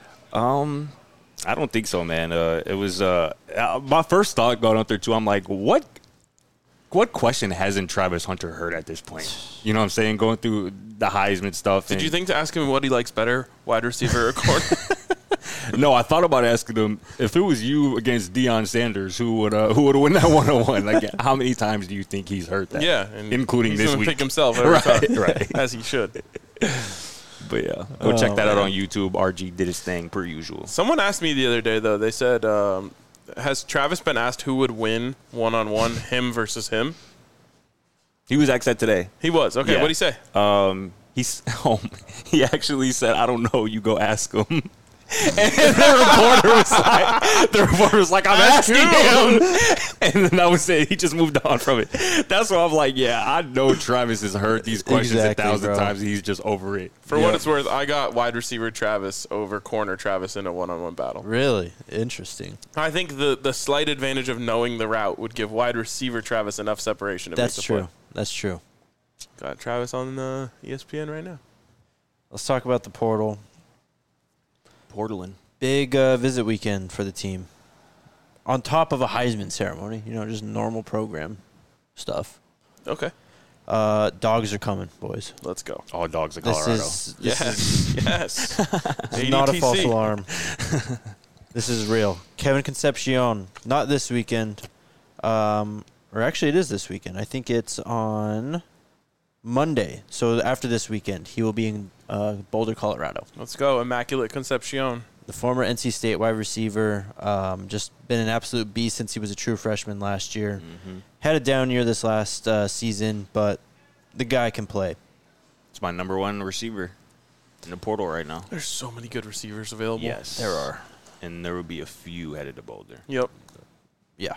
C: I don't think so, man. It was my first thought going up there, too. I'm like, what question hasn't Travis Hunter heard at this point? You know what I'm saying? Going through the Heisman stuff.
B: Did you think to ask him what he likes better, wide receiver or corner?
C: No, I thought about asking him, if it was you against Deion Sanders, who would win that 101? Like, how many times do you think he's heard that?
B: Yeah. And
C: including
B: he's
C: this
B: gonna
C: week.
B: pick himself every time.
C: Right.
B: As he should.
C: But yeah, go check that out on YouTube. RG did his thing per usual.
B: Someone asked me the other day, though. They said, has Travis been asked who would win one-on-one, him versus him?
C: He was asked that today.
B: He was. Okay,
C: Yeah.
B: what'd he say?
C: He actually said, "I don't know. You go ask him." And the reporter was like, I'm asking him. And then that was it. He just moved on from it. That's why I'm like, yeah, I know Travis has heard these questions
A: Exactly,
C: 1,000
A: bro.
C: times. He's just over it.
B: For what it's worth, I got wide receiver Travis over corner Travis in a one-on-one battle.
A: Really? Interesting.
B: I think the slight advantage of knowing the route would give wide receiver Travis enough separation to
A: That's
B: make the
A: true.
B: play.
A: That's true.
B: Got Travis on ESPN right now.
A: Let's talk about the portal.
C: Portland.
A: Big visit weekend for the team. On top of a Heisman ceremony, just normal program stuff.
B: Okay,
A: Dogs are coming, boys.
B: let's go.
C: All dogs of
A: This
C: Colorado.
A: is
B: Yes.
A: this is not a
B: ADTC.
A: false alarm. This is real. Kevin Concepcion, not this weekend. Or actually, it is this weekend. I think it's on Monday. So after this weekend, he will be in Boulder, Colorado.
B: Let's go. Immaculate Concepcion.
A: The former NC State wide receiver, just been an absolute beast since he was a true freshman last year. Had a down year this last season, but the guy can play.
C: It's my number one receiver in the portal right now.
B: There's so many good receivers available.
C: Yes.
A: There are.
C: And there will be a few headed to Boulder.
B: Yep.
A: Yeah.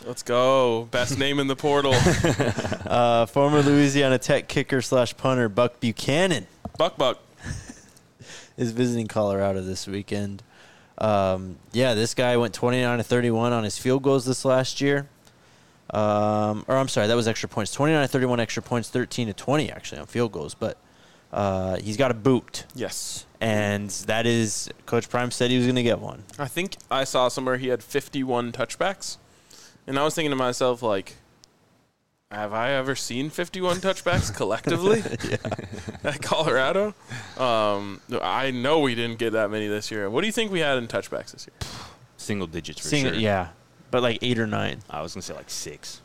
B: Let's go. Best name in the portal.
A: Former Louisiana Tech kicker / punter Buck Buchanan
B: Buck.
A: is visiting Colorado this weekend. This guy went 29-31 on his field goals this last year. I'm sorry, that was extra points. 29-31 extra points, 13-20 actually on field goals. But he's got a boot.
B: Yes.
A: And that is, Coach Prime said he was going to get one.
B: I think I saw somewhere he had 51 touchbacks. And I was thinking to myself, like, have I ever seen 51 touchbacks collectively at Colorado? I know we didn't get that many this year. What do you think we had in touchbacks this year?
C: Single digits for sure.
A: Yeah, but like 8 or 9.
C: I was going to say like 6.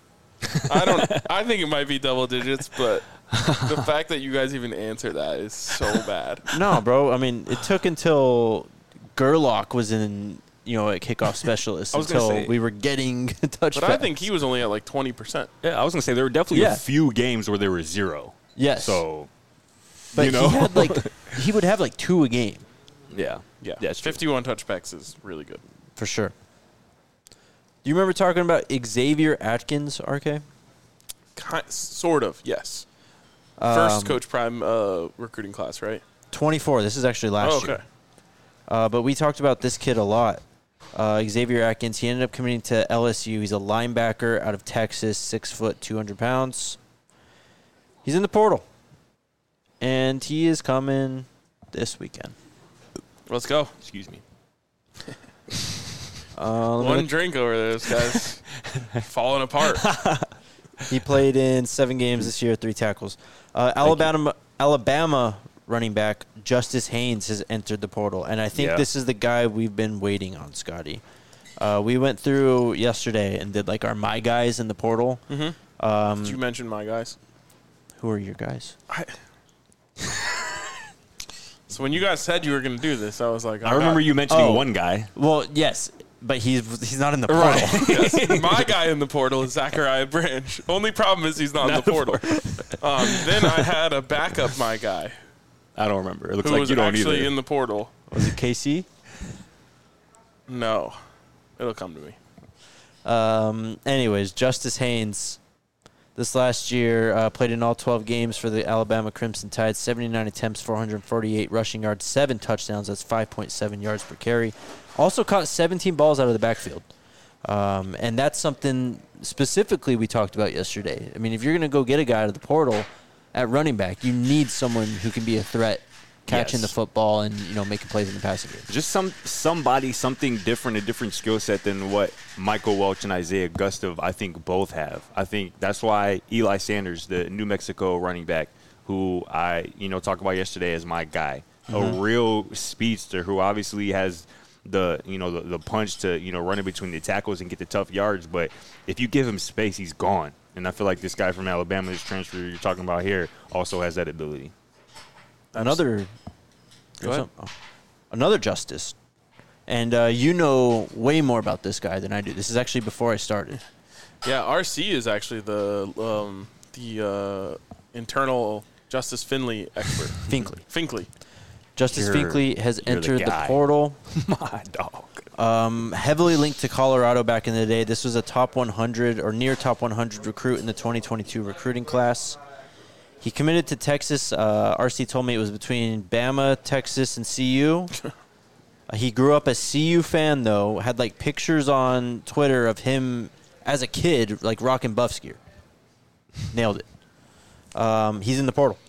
B: I think it might be double digits, but the fact that you guys even answer that is so bad.
A: No, bro. I mean, it took until Gerlach was in, at kickoff specialist until we were getting touchbacks.
B: But I think he was only at like 20%.
C: Yeah, I was going to say there were definitely a few games where there were 0.
A: Yes.
C: So,
A: but he had he would have like 2 a game.
C: Yeah.
B: Yeah.
C: That's true.
B: 51 touchbacks is really good.
A: For sure. Do you remember talking about Xavier Atkins, RK?
B: Sort of, yes. First Coach Prime recruiting class, right?
A: 24. This is actually last year. But we talked about this kid a lot. Xavier Atkins, he ended up committing to LSU. He's a linebacker out of Texas, 6 foot, 200 pounds. He's in the portal. And he is coming this weekend.
B: Let's go.
C: Excuse me.
B: One drink over there, this guy's falling apart.
A: He played in 7 games this year, 3 tackles. Alabama running back Justice Haynes has entered the portal, and I think this is the guy we've been waiting on, Scotty. We went through yesterday and did like our my guys in the portal.
B: Mm-hmm. Did you mention my guys?
A: Who are your guys?
B: So when you guys said you were going to do this, I was like,
C: I remember you mentioning one guy.
A: Well, yes, but he's not in the portal.
B: Right. Yes. My guy in the portal is Zachariah Branch. Only problem is he's not in the portal. Then I had a backup my guy.
C: I don't remember. It looks
B: who
C: like
B: was
C: you don't
B: actually
C: either.
B: in the portal.
A: Was it KC?
B: No. It'll come to me.
A: Anyways, Justice Haynes, this last year, played in all 12 games for the Alabama Crimson Tide, 79 attempts, 448 rushing yards, 7 touchdowns. That's 5.7 yards per carry. Also caught 17 balls out of the backfield. And that's something specifically we talked about yesterday. I mean, if you're going to go get a guy out of the portal at running back, you need someone who can be a threat catching the football and, making plays in the passing game.
C: Just something different, a different skill set than what Michael Welch and Isaiah Gustav, I think, both have. I think that's why Eli Sanders, the New Mexico running back, who I, talked about yesterday as my guy, a real speedster who obviously has the punch to, run in between the tackles and get the tough yards. But if you give him space, he's gone. And I feel like this guy from Alabama, this transfer you're talking about here, also has that ability.
A: Another Justice. And you know way more about this guy than I do. This is actually before I started.
B: Yeah, RC is actually the internal Justice Finley expert. Finkley.
A: Justice Finkley has entered the portal.
C: My dog.
A: Heavily linked to Colorado back in the day. This was a top 100 or near top 100 recruit in the 2022 recruiting class. He committed to Texas. RC told me it was between Bama, Texas, and CU. He grew up a CU fan, though. Had, pictures on Twitter of him as a kid, rocking Buffs gear. Nailed it. He's in the portal.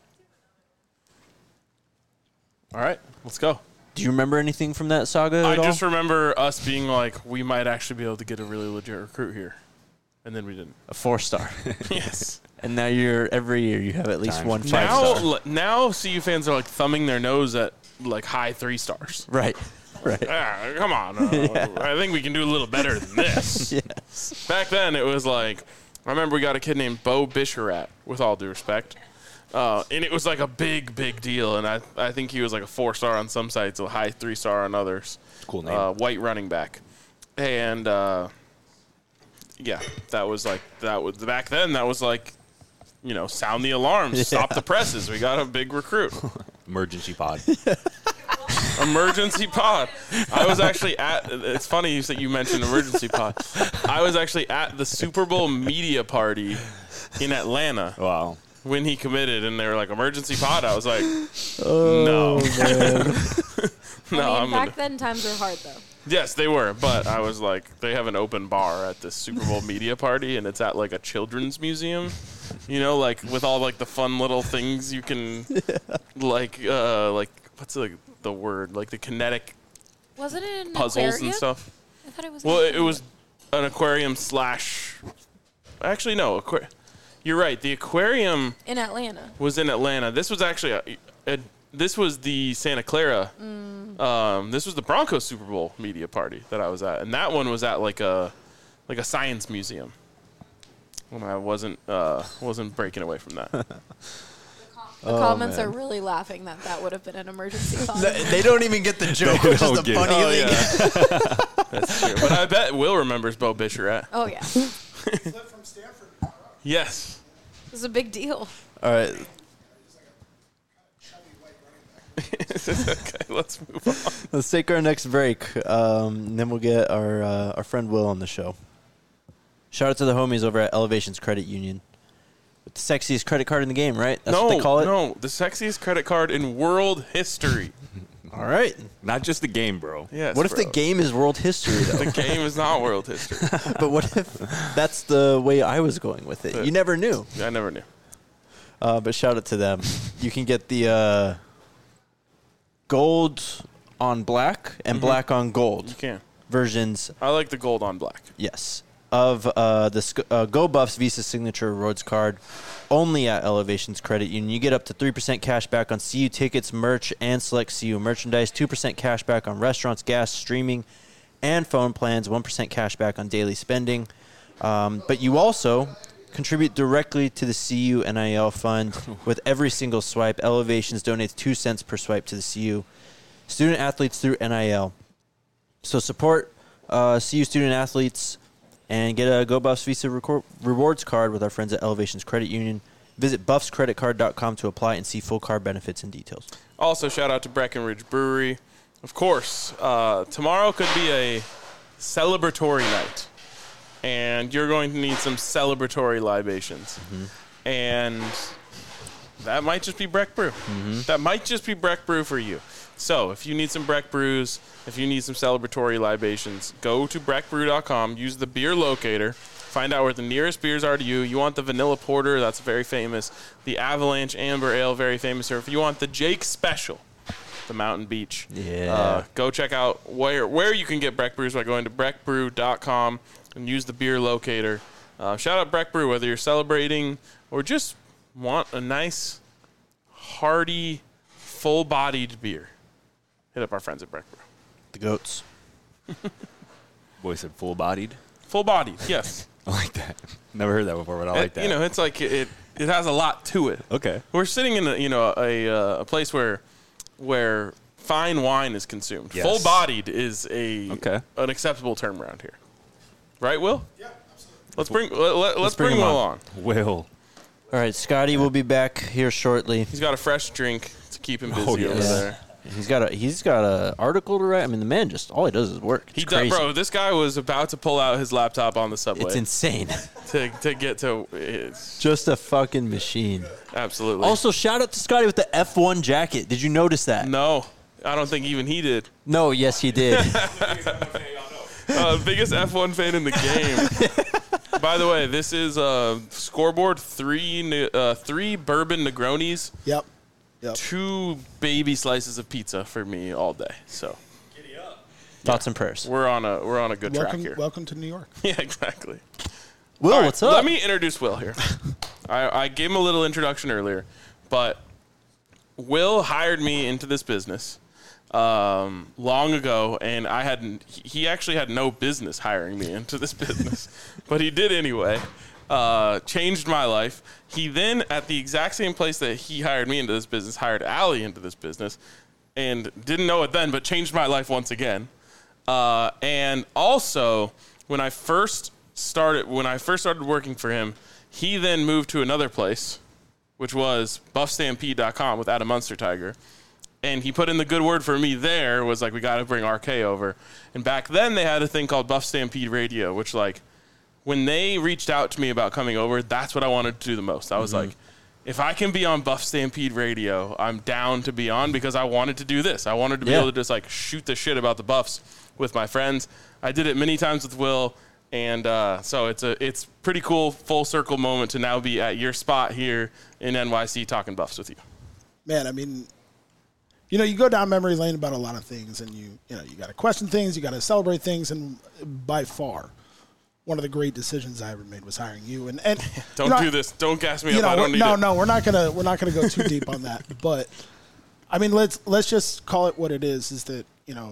B: All right, let's go.
A: Do you remember anything from that saga at all?
B: I just remember us being like, we might actually be able to get a really legit recruit here. And then we didn't.
A: A 4-star.
B: Yes.
A: And now every year you have at least one 5-star.
B: Now CU fans are thumbing their nose at high 3 stars.
A: Right.
B: Come on. I think we can do a little better than this.
A: Yes.
B: Back then it was I remember we got a kid named Bo Bisharat, with all due respect. And it was a big, big deal. And I think he was a 4-star on some sites, a high 3-star on others.
C: Cool name.
B: White running back. And yeah, that was back then. That was sound the alarms, stop the presses. We got a big recruit.
C: Emergency pod.
B: Emergency pod. I was actually at. It's funny that you mentioned emergency pod. I was actually at the Super Bowl media party in Atlanta.
C: Wow.
B: When he committed, and they were like, emergency pod. I was like, no.
D: I mean, back then times were hard though.
B: Yes, they were, but I was like, they have an open bar at this Super Bowl media party, and it's at like a children's museum, you know, like with all like the fun little things you can, like what's the word, like the kinetic
D: Wasn't it an
B: puzzles
D: aquarium?
B: and stuff.
D: I thought it was.
B: Well, it was an aquarium slash. Actually, no, you're right. The aquarium
D: in Atlanta.
B: was in Atlanta. This was actually this was the Santa Clara. This was the Broncos Super Bowl media party that I was at, and that one was at like a science museum. When I wasn't breaking away from that.
D: The comments are really laughing that would have been an emergency pod.
A: They don't even get the joke, which is the funny thing.
B: Yeah. That's true. But I bet Will remembers Bo Bicheret.
D: Oh yeah.
E: From Stanford.
B: Yes.
D: It was a big deal.
A: All right.
B: Okay, let's move on.
A: Let's take our next break, and then we'll get our friend Will on the show. Shout out to the homies over at Elevations Credit Union. With the sexiest credit card in the game, right? That's what they call it?
B: No, the sexiest credit card in world history.
A: All right.
C: Not just the game, bro.
B: Yes,
A: What if
B: bro.
A: the game is world history, though?
B: The game is not world history.
A: But what if that's the way I was going with it? You never knew.
B: I never knew.
A: But shout out to them. You can get the gold on black and black on gold
B: You can.
A: versions.
B: I like the gold on black.
A: Yes. Of the Go Buffs Visa Signature Rewards card only at Elevations Credit Union. You get up to 3% cash back on CU tickets, merch, and select CU merchandise, 2% cash back on restaurants, gas, streaming, and phone plans, 1% cash back on daily spending. But you also contribute directly to the CU NIL fund with every single swipe. Elevations donates 2 cents per swipe to the CU student athletes through NIL. So support CU student athletes and get a Go Buffs Visa Rewards card with our friends at Elevations Credit Union. Visit buffscreditcard.com to apply and see full card benefits and details.
B: Also, shout out to Breckenridge Brewery. Of course, tomorrow could be a celebratory night, and you're going to need some celebratory libations. And that might just be Breck Brew. That might just be Breck Brew for you. So if you need some Breck Brews, if you need some celebratory libations, go to breckbrew.com, use the beer locator, find out where the nearest beers are to you. You want the Vanilla Porter, that's very famous. The Avalanche Amber Ale, very famous. Or if you want the Jake Special, the Mountain Beach, go check out where you can get Breck Brews by going to breckbrew.com and use the beer locator. Shout out Breck Brew, whether you're celebrating or just want a nice, hearty, full-bodied beer. Hit up our friends at Breck Brew.
A: The goats.
C: Boy said full-bodied.
B: Full-bodied, yes.
C: I like that. Never heard that before, but I like that.
B: You know, it's like it has a lot to it.
C: Okay.
B: We're sitting in a place where fine wine is consumed.
C: Yes.
B: Full-bodied is an acceptable term around here. Right, Will?
E: Yeah, absolutely.
B: Let's bring Will on.
C: Will.
A: All right, Scotty will be back here shortly.
B: He's got a fresh drink to keep him busy
C: Oh, yes.
B: over there.
A: He's got a article to write. I mean, the man just all he does is work. It's
B: He does,
A: crazy.
B: bro. This guy was about to pull out his laptop on the subway.
A: It's insane.
B: to get to it's
A: Just a fucking machine.
B: absolutely.
A: Also, shout out to Scotty with the F1 jacket. Did you notice that?
B: no, I don't think even he did.
A: No, yes, he did.
B: Biggest F1 fan in the game. By the way, this is scoreboard three bourbon Negronis,
E: Yep.
B: 2 baby slices of pizza for me all day. So
A: Thoughts and prayers.
B: we're on a good track here.
E: Welcome to New York.
B: Yeah, exactly.
A: Will,
B: All right,
A: what's up?
B: Let me introduce Will here. I gave him a little introduction earlier, Will hired me into this business long ago, and he actually had no business hiring me into this business, but he did anyway. Changed my life. He then, at the exact same place that he hired me into this business, hired Allie into this business, and didn't know it then, but changed my life once again. And also, when I first started working for him, he then moved to another place, which was buffstampede.com with Adam Munster Tiger. And he put in the good word for me there, was like, we got to bring RK over. And back then they had a thing called Buff Stampede Radio, which like when they reached out to me about coming over, that's what I wanted to do the most. I was like, if I can be on Buff Stampede Radio, I'm down to be on, because I wanted to do this. I wanted to be able to just like shoot the shit about the Buffs with my friends. I did it many times with Will. And so it's pretty cool full circle moment to now be at your spot here in NYC talking Buffs with you.
E: Man, I mean, you go down memory lane about a lot of things, and you got to question things, you got to celebrate things, and by far, one of the great decisions I ever made was hiring you. And
B: don't do this. Don't gas me up. I don't need it.
E: No, we're not gonna go too deep on that. But I mean, let's just call it what it is. Is that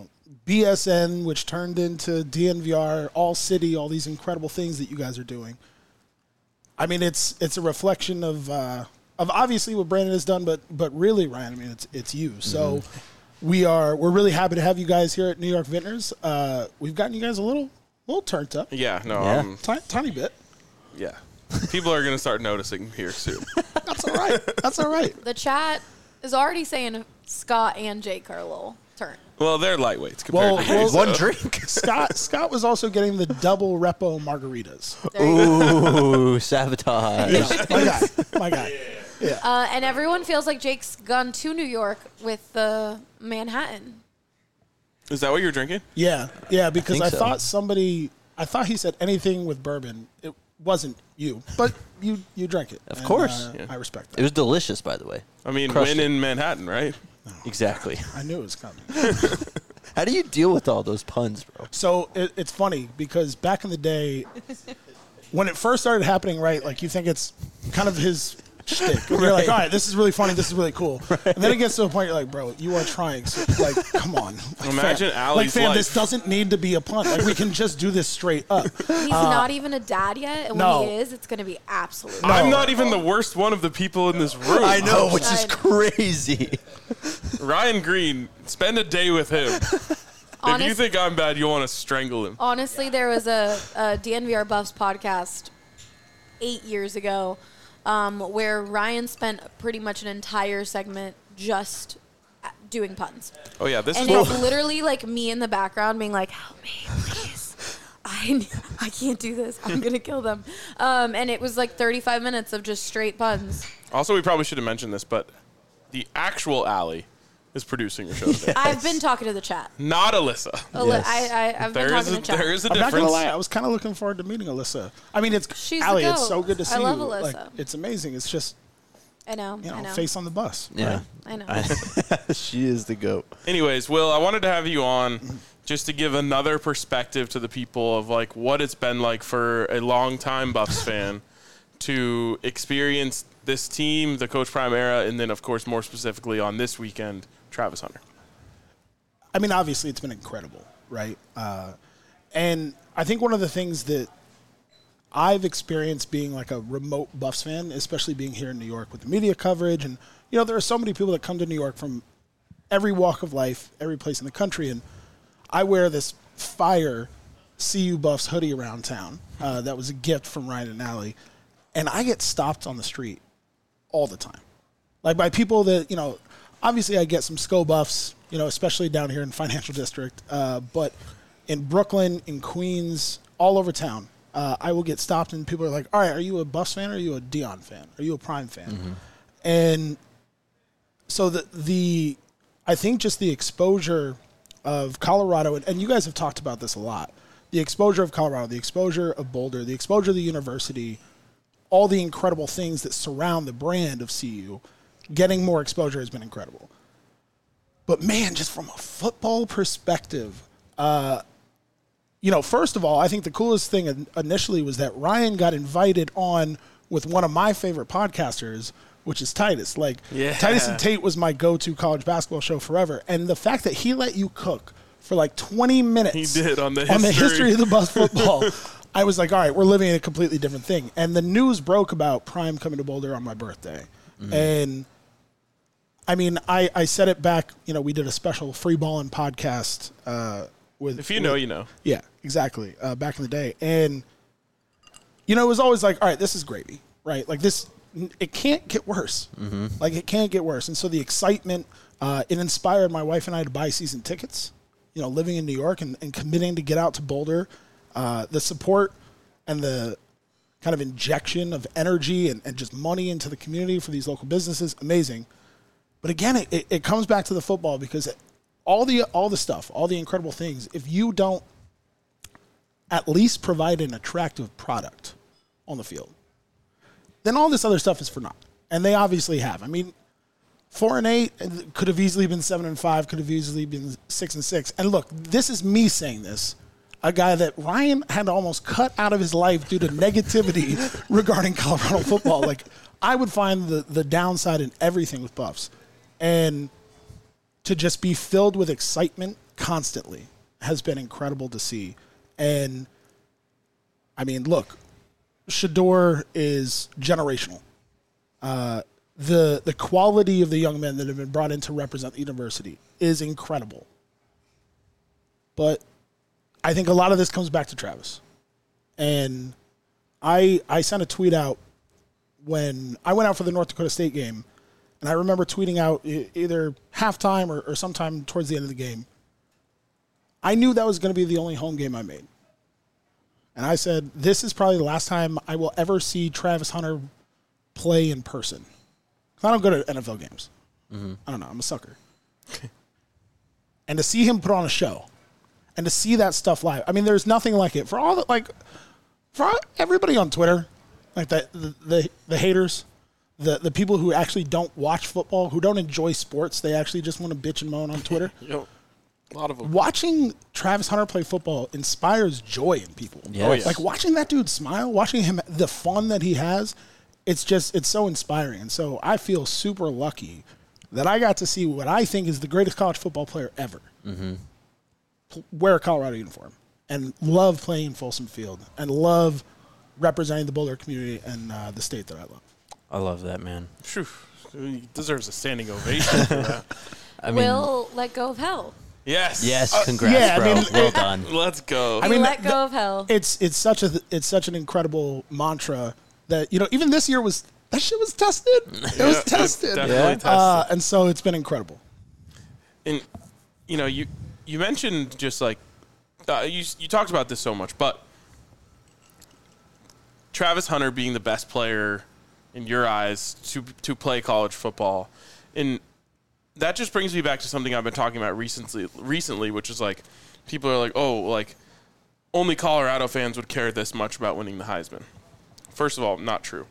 E: BSN, which turned into DNVR, All City, all these incredible things that you guys are doing. I mean, it's a reflection of obviously what Brandon has done, but really, Ryan, I mean, it's you. So we're really happy to have you guys here at New York Vintners. We've gotten you guys a little turned up.
B: Yeah, no,
E: tiny bit.
B: Yeah, people are gonna start noticing here soon.
E: That's all right. That's all right.
D: The chat is already saying Scott and Jake are a little turned.
B: Well, they're lightweights compared to me, so.
A: One drink.
E: Scott was also getting the double repo margaritas.
A: Ooh, sabotage.
E: My guy. Yeah.
D: And everyone feels like Jake's gone to New York with the Manhattan.
B: Is that what you're drinking?
E: Yeah, because I thought he said anything with bourbon. It wasn't you, but you drank it.
A: Of course.
E: I respect that.
A: It was delicious, by the way.
B: I mean,
A: Crushed
B: win
A: it.
B: in Manhattan, right?
A: Exactly.
E: I knew it was coming.
A: How do you deal with all those puns, bro?
E: So it's funny because back in the day, when it first started happening, right, like you think it's kind of his shtick. And you're like, all right, this is really funny. This is really cool. Right. And then it gets to a point you're like, bro, you are trying. So, like, come on. Like,
B: Imagine Allie's
E: fam,
B: life.
E: this doesn't need to be a pun. Like, we can just do this straight up.
D: He's not even a dad yet, and
E: no.
D: when he is, it's going to be absolutely.
B: I'm not even the worst one of the people in this room.
A: I know, which is crazy.
B: Ryan Green, spend a day with him. If you think I'm bad, you want to strangle him.
D: Honestly, there was a DNVR Buffs podcast 8 years ago where Ryan spent pretty much an entire segment just doing puns.
B: Oh, yeah. This
D: And
B: is
D: it's literally like me in the background being like, help me, please. I can't do this. I'm going to kill them. And it was like 35 minutes of just straight puns.
B: Also, we probably should have mentioned this, but the actual Allie is producing your show today.
D: I've been talking to the chat.
B: Not Alyssa.
D: I've been talking to the chat.
B: There is a
E: I'm not
B: difference.
E: gonna lie, I was kind of looking forward to meeting Alyssa. I mean,
D: She's
E: Allie,
D: the
E: it's
D: goat.
E: so good to see
D: I love
E: you.
D: Alyssa.
E: Like, it's amazing. It's just
D: I know.
E: face on the bus.
A: Yeah.
D: I know.
A: She is the GOAT.
B: Anyways, Will, I wanted to have you on just to give another perspective to the people of like what it's been like for a long-time Buffs fan to experience this team, the Coach Prime era, and then, of course, more specifically on this weekend, Travis Hunter.
E: I mean, obviously, it's been incredible, right? And I think one of the things that I've experienced being like a remote Buffs fan, especially being here in New York with the media coverage, and there are so many people that come to New York from every walk of life, every place in the country, and I wear this fire CU Buffs hoodie around town. That was a gift from Ryan and Allie, and I get stopped on the street all the time, like by people that obviously, I get some SCO Buffs, especially down here in Financial District. But in Brooklyn, in Queens, all over town, I will get stopped and people are like, all right, are you a Buffs fan or are you a Dion fan? Are you a Prime fan? Mm-hmm. And so I think just the exposure of Colorado, and you guys have talked about this a lot, the exposure of Colorado, the exposure of Boulder, the exposure of the university, all the incredible things that surround the brand of CU, getting more exposure has been incredible. But, man, just from a football perspective, first of all, I think the coolest thing initially was that Ryan got invited on with one of my favorite podcasters, which is Titus. Titus and Tate was my go-to college basketball show forever. And the fact that he let you cook for like 20 minutes
B: he did on the
E: history of the Buffs football, I was like, all right, we're living in a completely different thing. And the news broke about Prime coming to Boulder on my birthday. Mm-hmm. And I mean, I said it back, we did a special free ballin' podcast with.
B: If you know, you know.
E: Yeah, exactly. Back in the day. And, it was always like, all right, this is gravy, right? Like this, it can't get worse. Mm-hmm. Like it can't get worse. And so the excitement It inspired my wife and I to buy season tickets, living in New York and committing to get out to Boulder. The support and the kind of injection of energy and just money into the community for these local businesses, amazing. But again, it comes back to the football, because all the stuff, all the incredible things, if you don't at least provide an attractive product on the field, then all this other stuff is for naught. And they obviously have. I mean, 4-8 could have easily been 7-5, could have easily been 6-6. And look, this is me saying this, a guy that Ryan had almost cut out of his life due to negativity regarding Colorado football. Like, I would find the downside in everything with Buffs. And to just be filled with excitement constantly has been incredible to see. And, I mean, look, Shedeur is generational. The quality of the young men that have been brought in to represent the university is incredible. But I think a lot of this comes back to Travis. And I sent a tweet out when I went out for the North Dakota State game, and I remember tweeting out either halftime or sometime towards the end of the game. I knew that was going to be the only home game I made. And I said, this is probably the last time I will ever see Travis Hunter play in person. I don't go to NFL games. Mm-hmm. I don't know. I'm a sucker. And to see him put on a show and to see that stuff live, I mean, there's nothing like it. For everybody on Twitter, like the haters, the people who actually don't watch football, who don't enjoy sports, they actually just want to bitch and moan on Twitter.
B: Yep. A lot of them. Watching
E: Travis Hunter play football inspires joy in people.
A: Yes. Oh, yes.
E: Like watching that dude smile, watching him, the fun that he has, it's so inspiring. And so I feel super lucky that I got to see what I think is the greatest college football player ever wear a Colorado uniform and love playing Folsom Field and love representing the Boulder community and the state that I love.
A: I love that, man.
B: Phew. He deserves a standing ovation for that.
D: Will let go of hell.
B: Yes.
A: Yes, congrats,
E: yeah,
A: bro.
E: I mean,
A: well done.
B: Let's go.
E: I mean,
D: let go of hell.
E: It's such an incredible mantra that even this year that shit was tested. It was tested.
B: Definitely tested.
E: And so it's been incredible.
B: And you mentioned just like you talked about this so much, but Travis Hunter being the best player in your eyes to play college football, and that just brings me back to something I've been talking about recently, which is like people are like, oh, like only Colorado fans would care this much about winning the Heisman. First of all, not true.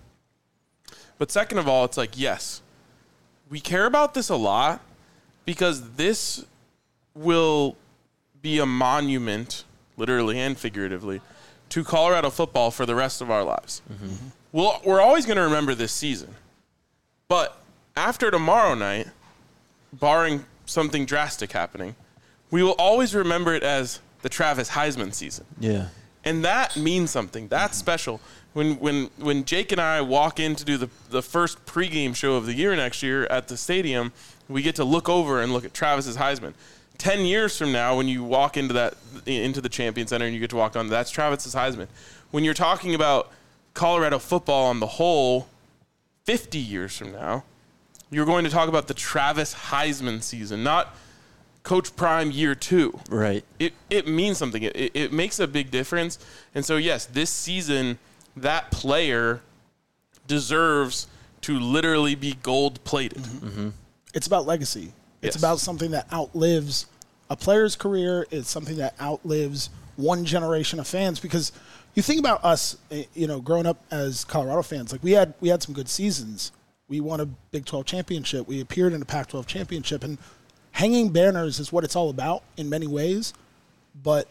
B: But second of all, it's like, yes, we care about this a lot because this will be a monument, literally and figuratively, to Colorado football for the rest of our lives. Mm-hmm. We're always going to remember this season. But after tomorrow night, barring something drastic happening, we will always remember it as the Travis Heisman season.
A: Yeah.
B: And that means something. That's special. When Jake and I walk in to do the first pregame show of the year next year at the stadium, we get to look over and look at Travis's Heisman. 10 years from now, when you walk into the Champion Center and you get to walk on, that's Travis's Heisman. When you're talking about Colorado football on the whole, 50 years from now, you're going to talk about the Travis Heisman season, not Coach Prime year 2.
A: Right.
B: It means something. It makes a big difference. And so, yes, this season, that player deserves to literally be gold-plated.
E: Mm-hmm. It's about legacy. It's
B: Yes.
E: about something that outlives a player's career. It's something that outlives one generation of fans. Because you think about us, growing up as Colorado fans, like we had some good seasons. We won a Big 12 championship. We appeared in a Pac-12 championship. And hanging banners is what it's all about in many ways. But,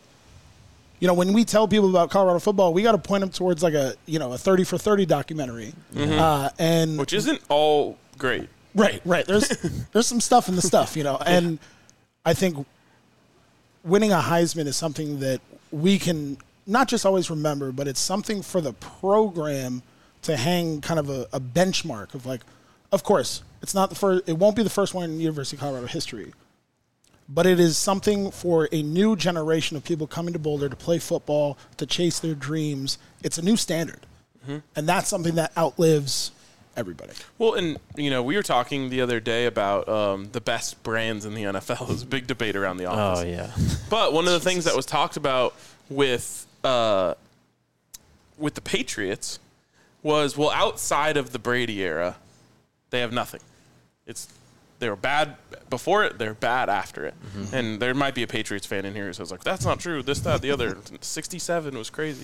E: when we tell people about Colorado football, we got to point them towards like a 30 for 30 documentary.
B: Mm-hmm. Which isn't all great.
E: Right. There's some stuff in the stuff, and I think winning a Heisman is something that we can not just always remember, but it's something for the program to hang kind of a benchmark of like, of course, it's not the first, it won't be the first one in University of Colorado history, but it is something for a new generation of people coming to Boulder to play football, to chase their dreams. It's a new standard, and that's something that outlives everybody.
B: Well, and, we were talking the other day about the best brands in the NFL. There's a big debate around the office.
A: Oh, yeah.
B: But one of the things that was talked about with the Patriots was, well, outside of the Brady era, they have nothing. They were bad before it, they're bad after it. Mm-hmm. And there might be a Patriots fan in here who says, like, that's not true, this, that, the other. 67 was crazy.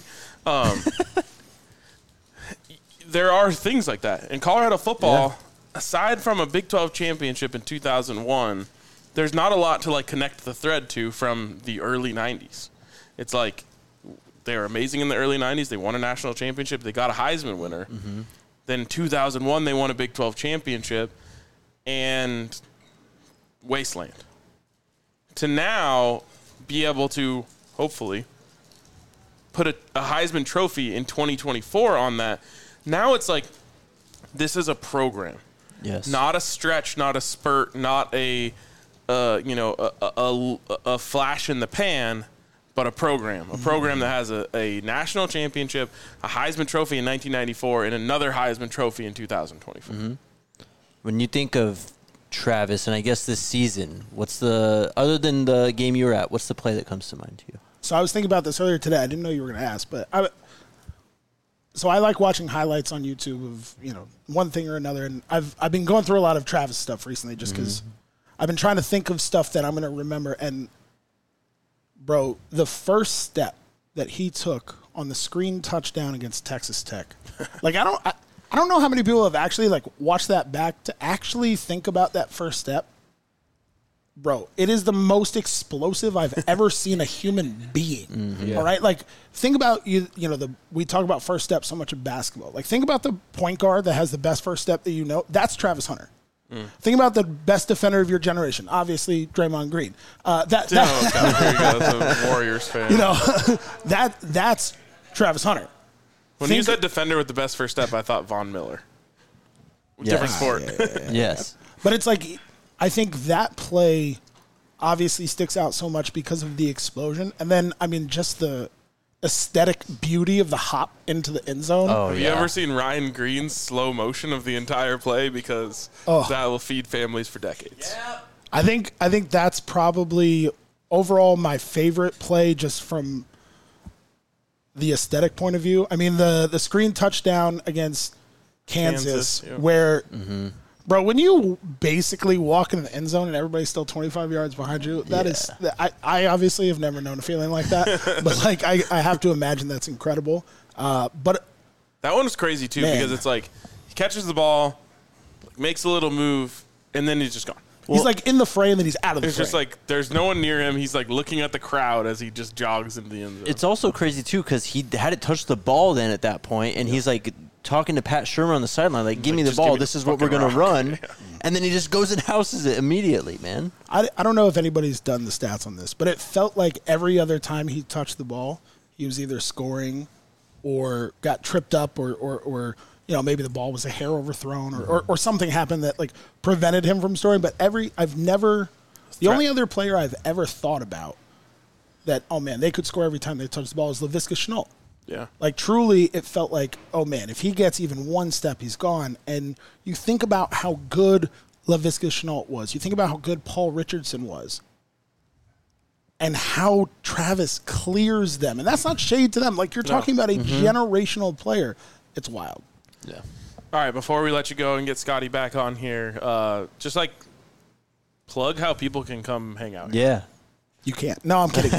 B: There are things like that. In Colorado football, aside from a Big 12 championship in 2001, there's not a lot to, like, connect the thread to from the early 90s. It's like they were amazing in the early 90s. They won a national championship. They got a Heisman winner. Mm-hmm. Then in 2001, they won a Big 12 championship. And wasteland. To now be able to, hopefully, put a Heisman Trophy in 2024 on that, now it's like, this is a program.
A: Yes.
B: Not a stretch, not a spurt, not a flash in the pan, but a program. A program that has a national championship, a Heisman Trophy in 1994, and another Heisman Trophy in 2024. Mm-hmm.
A: When you think of Travis, and I guess this season, other than the game you were at, what's the play that comes to mind to you?
E: So I was thinking about this earlier today. I didn't know you were going to ask, but I like watching highlights on YouTube of, one thing or another. And I've been going through a lot of Travis stuff recently just because I've been trying to think of stuff that I'm going to remember. And, bro, the first step that he took on the screen touchdown against Texas Tech, like, I don't know how many people have actually, like, watched that back to actually think about that first step. Bro, it is the most explosive I've ever seen a human being. Mm-hmm. Yeah. All right? Like, think about, we talk about first step so much in basketball. Like, think about the point guard that has the best first step that you know. That's Travis Hunter. Mm. Think about the best defender of your generation. Obviously, Draymond Green.
B: There you go. That's a Warriors fan.
E: That's Travis Hunter.
B: When he said defender with the best first step, I thought Von Miller. Yes. Different sport.
E: Yeah.
A: Yes.
E: But it's like, I think that play obviously sticks out so much because of the explosion. And then, just the aesthetic beauty of the hop into the end zone.
B: Oh, Have you ever seen Ryan Green's slow motion of the entire play? Because that will feed families for decades. Yeah.
E: I think that's probably overall my favorite play just from the aesthetic point of view. The screen touchdown against Kansas where, bro, when you basically walk in the end zone and everybody's still 25 yards behind you, that is, I obviously have never known a feeling like that, but like I have to imagine that's incredible. But
B: that one was crazy too, because it's like he catches the ball, makes a little move, and then he's just gone.
E: He's like in the fray and then he's out of the
B: frame. It's just like there's no one near him. He's like looking at the crowd as he just jogs into the end zone.
A: It's also crazy too because he hadn't touched the ball then at that point, and he's like talking to Pat Shermer on the sideline, like, give me the ball. This is what we're going to run. And then he just goes and houses it immediately, man.
E: I don't know if anybody's done the stats on this, but it felt like every other time he touched the ball, he was either scoring or got tripped up or maybe the ball was a hair overthrown or something happened that like prevented him from scoring. But the only other player I've ever thought about that, oh man, they could score every time they touch the ball is Laviska Shenault.
B: Yeah.
E: Like truly it felt like, oh man, if he gets even one step, he's gone. And you think about how good Laviska Shenault was. You think about how good Paul Richardson was. And how Travis clears them. And that's not shade to them. Like you're talking about a generational player. It's wild.
A: Yeah.
B: All right, before we let you go and get Scotty back on here, just like plug how people can come hang out here.
A: Yeah.
E: You can't. No, I'm kidding.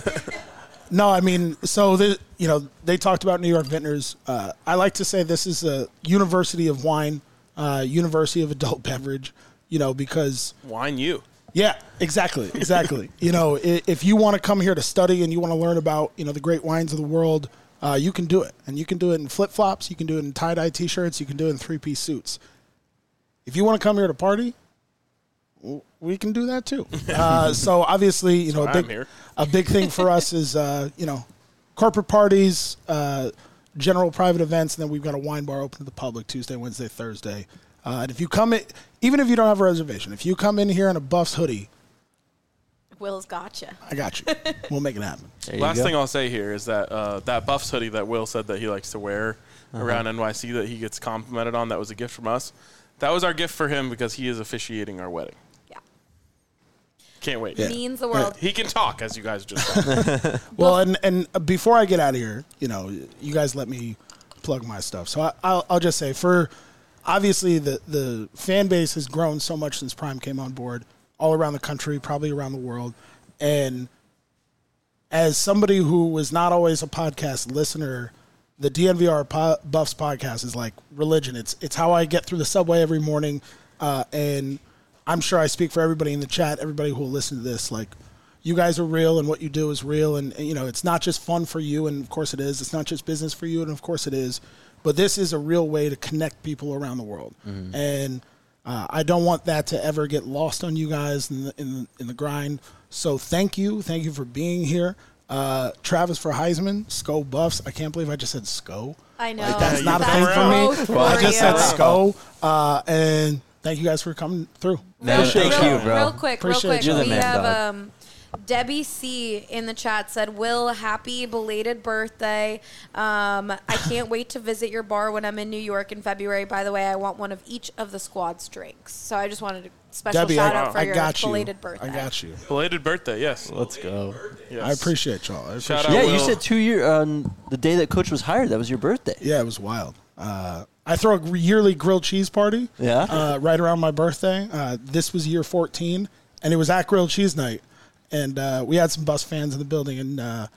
E: So they talked about New York Vintners. I like to say this is a university of wine, university of adult beverage, because
B: wine you.
E: Yeah, exactly. If you want to come here to study and you want to learn about, the great wines of the world, you can do it. And you can do it in flip-flops. You can do it in tie-dye T-shirts. You can do it in three-piece suits. If you want to come here to party, we can do that too. So obviously, a big thing for us is, corporate parties, general private events, and then we've got a wine bar open to the public Tuesday, Wednesday, Thursday. And if you come in, even if you don't have a reservation, if you come in here in a Buffs hoodie,
D: Will's gotcha.
E: I got you. We'll make it happen.
B: Last thing I'll say here is that that Buffs hoodie that Will said that he likes to wear, around NYC that he gets complimented on. That was a gift from us. That was our gift for him because he is officiating our wedding.
D: Yeah.
B: Can't wait.
E: Yeah.
D: Means the world.
B: He can talk, as you guys just said.
E: Well, and before I get out of here, you guys let me plug my stuff. So I'll just say, obviously the fan base has grown so much since Prime came on board, all around the country, probably around the world. And as somebody who was not always a podcast listener, the DNVR Buffs podcast is like religion. It's how I get through the subway every morning, and I'm sure I speak for everybody in the chat, everybody who will listen to this. Like, you guys are real, and what you do is real, and it's not just fun for you, and of course it is. It's not just business for you, and of course it is. But this is a real way to connect people around the world, and I don't want that to ever get lost on you guys in the grind. So thank you for being here. Travis for Heisman, Sco Buffs. I can't believe I just said Sco.
D: I know.
E: Like, that's
B: you
E: not a
B: come
E: thing for me. I just said
D: you.
E: Sco. And thank you guys for coming through.
A: Thank you, bro.
D: Real quick.
E: Appreciate you.
A: You're the
D: We
A: man,
D: have Debbie C in the chat said, Will, happy belated birthday. I can't wait to visit your bar when I'm in New York in February. By the way, I want one of each of the squad's drinks. So I just wanted a special
E: Debbie,
D: shout out for
E: I
D: your
E: got you.
D: belated birthday.
E: I got you.
B: Belated birthday, yes.
A: Let's go.
B: Yes.
E: I appreciate y'all.
B: Shout out.
A: Yeah,
B: Will.
A: you said 2 years on the day that Coach was hired. That was your birthday.
E: Yeah, it was wild. I throw a yearly grilled cheese party.
A: Yeah?
E: Right around my birthday. This was year 14, and it was at grilled cheese night. And we had some Buffs fans in the building, and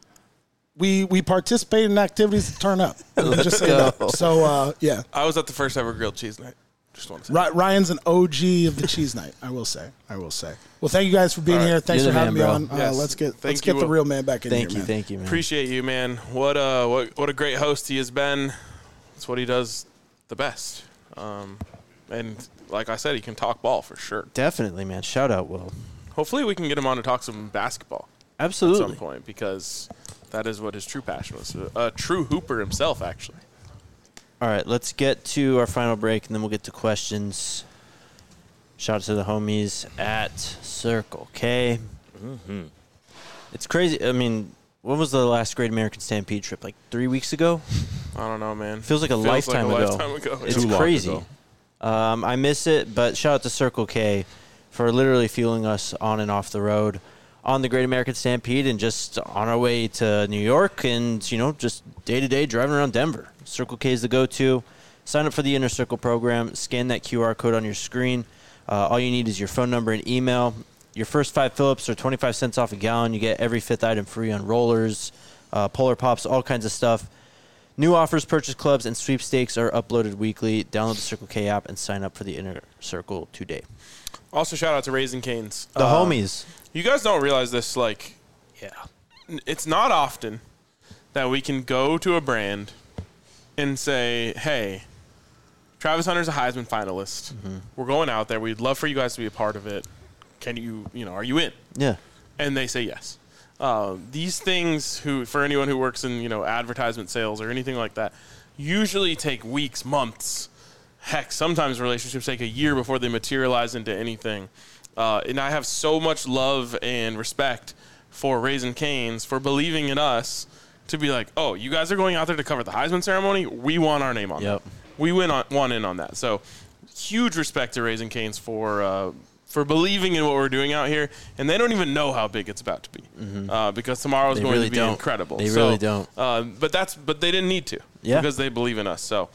E: we participated in activities to turn up. Just say that. So yeah,
B: I was at the first ever grilled cheese night. Just want to say.
E: Ryan's an OG of the cheese night. I will say. Well, thank you guys for being here. Thanks
A: You're
E: for
A: the
E: having
A: man,
E: me
A: bro.
E: on.
B: Yes.
E: Let's get
B: Thank you,
E: the
B: Will.
E: real man back in
A: Thank
E: here,
A: you,
E: man.
A: thank you, man.
B: Appreciate you, man. What a great host he has been. It's what he does the best. And like I said, he can talk ball for sure.
A: Definitely, man. Shout out, Will.
B: Hopefully we can get him on to talk some basketball at
A: Absolutely.
B: some point, because that is what his true passion was. A true hooper himself, actually.
A: All right, let's get to our final break, and then we'll get to questions. Shout out to the homies at Circle K. It's crazy. I mean, when was the last Great American Stampede trip? Like 3 weeks ago?
B: I don't know, man.
A: Feels like a lifetime ago. It's
C: Too long
A: crazy.
C: ago.
A: I miss it, but shout out to Circle K for literally fueling us on and off the road on the Great American Stampede and just on our way to New York and, just day-to-day driving around Denver. Circle K is the go-to. Sign up for the Inner Circle program. Scan that QR code on your screen. All you need is your phone number and email. Your first 5 fill-ups are 25 cents off a gallon. You get every 5th item free on rollers, Polar Pops, all kinds of stuff. New offers, purchase clubs, and sweepstakes are uploaded weekly. Download the Circle K app and sign up for the Inner Circle today.
B: Also, shout out to Raising Cane's.
A: The homies.
B: You guys don't realize this, it's not often that we can go to a brand and say, hey, Travis Hunter's a Heisman finalist. We're going out there. We'd love for you guys to be a part of it. Can you, are you in?
A: Yeah.
B: And they say yes. These things, for anyone who works in, advertisement sales or anything like that, usually take weeks, months. Heck, sometimes relationships take a year before they materialize into anything. And I have so much love and respect for Raising Cane's for believing in us to be like, oh, you guys are going out there to cover the Heisman ceremony? We want our name on
A: Yep.
B: that. We want in on that. So huge respect to Raising Cane's for believing in what we're doing out here. And they don't even know how big it's about to be because tomorrow's
A: They
B: going
A: really
B: to be
A: don't.
B: incredible.
A: They really don't.
B: But they didn't need to because they believe in us. So,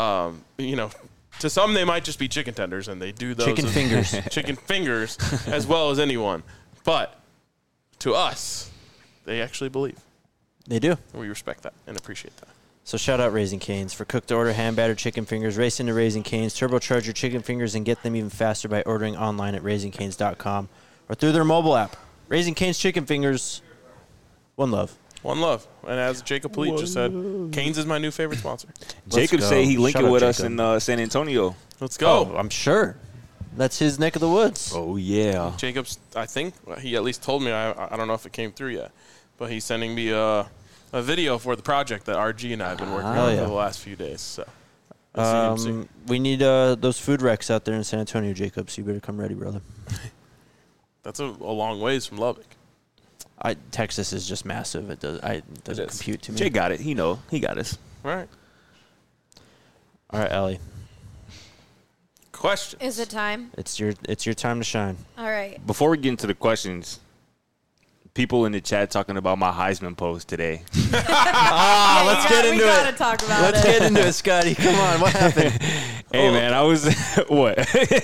B: to some, they might just be chicken tenders, and they do those
A: Chicken fingers.
B: chicken fingers as well as anyone. But to us, they actually believe.
A: They do.
B: And we respect that and appreciate that.
A: So shout out Raising Cane's. For cooked-to-order hand-battered chicken fingers, race into Raising Cane's. Turbocharge your chicken fingers and get them even faster by ordering online at RaisingCanes.com or through their mobile app. Raising Cane's chicken fingers. One love.
B: One love. And as Jacob Polite just said, Cane's is my new favorite sponsor.
C: Jacob
A: go.
C: say he linked
A: Shout
C: it
A: out
C: with us
A: Jacob.
C: in San Antonio.
B: Let's go.
A: Oh, I'm sure. That's his neck of the woods.
C: Oh, yeah.
B: Jacob's, I think, he at least told me, I don't know if it came through yet, but he's sending me a video for the project that RG and I have been working on
A: yeah.
B: for the last few days. So, we'll see.
A: We need those food wrecks out there in San Antonio, Jacob, so you better come ready, brother.
B: That's a long ways from Lubbock.
A: Texas is just massive. It doesn't
C: is.
A: compute to me.
C: Jay got it. He got us.
B: All right.
A: All right, Ellie.
B: Questions.
D: Is it time?
A: It's your time to shine.
D: All right.
C: Before we get into the questions, people in the chat talking about my Heisman post today.
A: Let's get into
D: We gotta
A: it.
D: talk about
A: Let's
D: it.
A: get into it, Scotty. Come on, what happened?
C: Hey, man, I was what?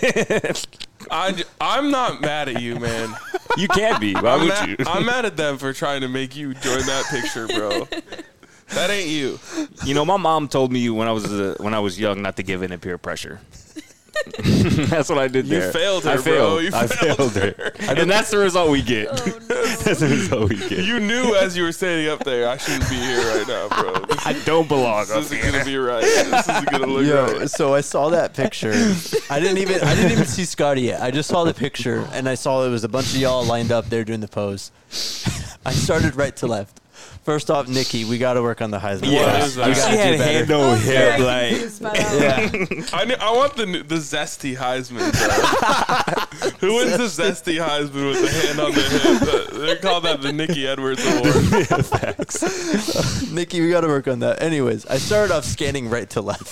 B: I'm not mad at you, man.
C: You can't be. Why would you?
B: I'm mad at them for trying to make you join that picture, bro. That ain't you.
C: You know, my mom told me when I was young not to give in to peer pressure. That's what I did there.
B: You failed her,
C: I failed.
B: bro. You
C: I
B: failed
C: failed her. And that's the result we get.
D: Oh, no.
C: That's the result we get.
B: You knew as you were standing up there, I shouldn't be here right now, bro.
C: I don't belong up
B: This isn't
C: here.
B: gonna be right. This isn't gonna look right.
A: So I saw that picture. I didn't even see Scotty yet. I just saw the picture and I saw it was a bunch of y'all lined up there doing the pose. I started right to left. First off, Nikki, we got to work on the Heisman.
C: Yeah,
B: What is that?
A: We
C: she
A: gotta
C: had
A: do better.
C: hand over
D: I was very
C: hip, like.
D: confused by that one.
A: Yeah.
B: I want the zesty Heisman, bro. Who wins the zesty Heisman with the hand on the hip? They call that the Nikki Edwards Award.
A: Nikki, we got to work on that. Anyways, I started off scanning right to left.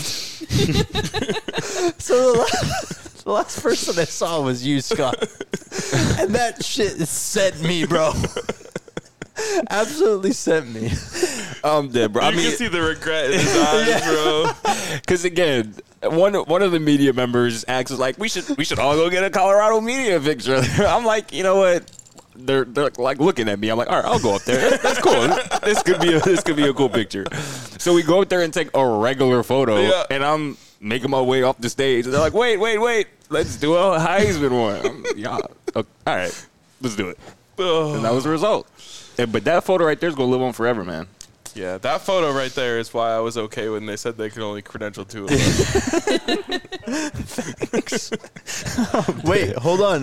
A: So the last person I saw was you, Scott. And that shit sent me, bro. Absolutely sent me.
C: I'm dead, bro.
B: You can see the regret in his eyes, bro.
C: Because again, one of the media members acts like we should all go get a Colorado media picture. I'm like, you know what? They're like looking at me. I'm like, all right, I'll go up there. That's cool. This could be a cool picture. So we go up there and take a regular photo,
B: Yeah.
C: and I'm making my way off the stage. And they're like, wait, let's do a Heisman one. Yeah, okay, all right, let's do it. And that was the result. But that photo right there is gonna live on forever, man.
B: Yeah, that photo right there is why I was okay when they said they could only credential 2 of us.
A: Wait, hold on.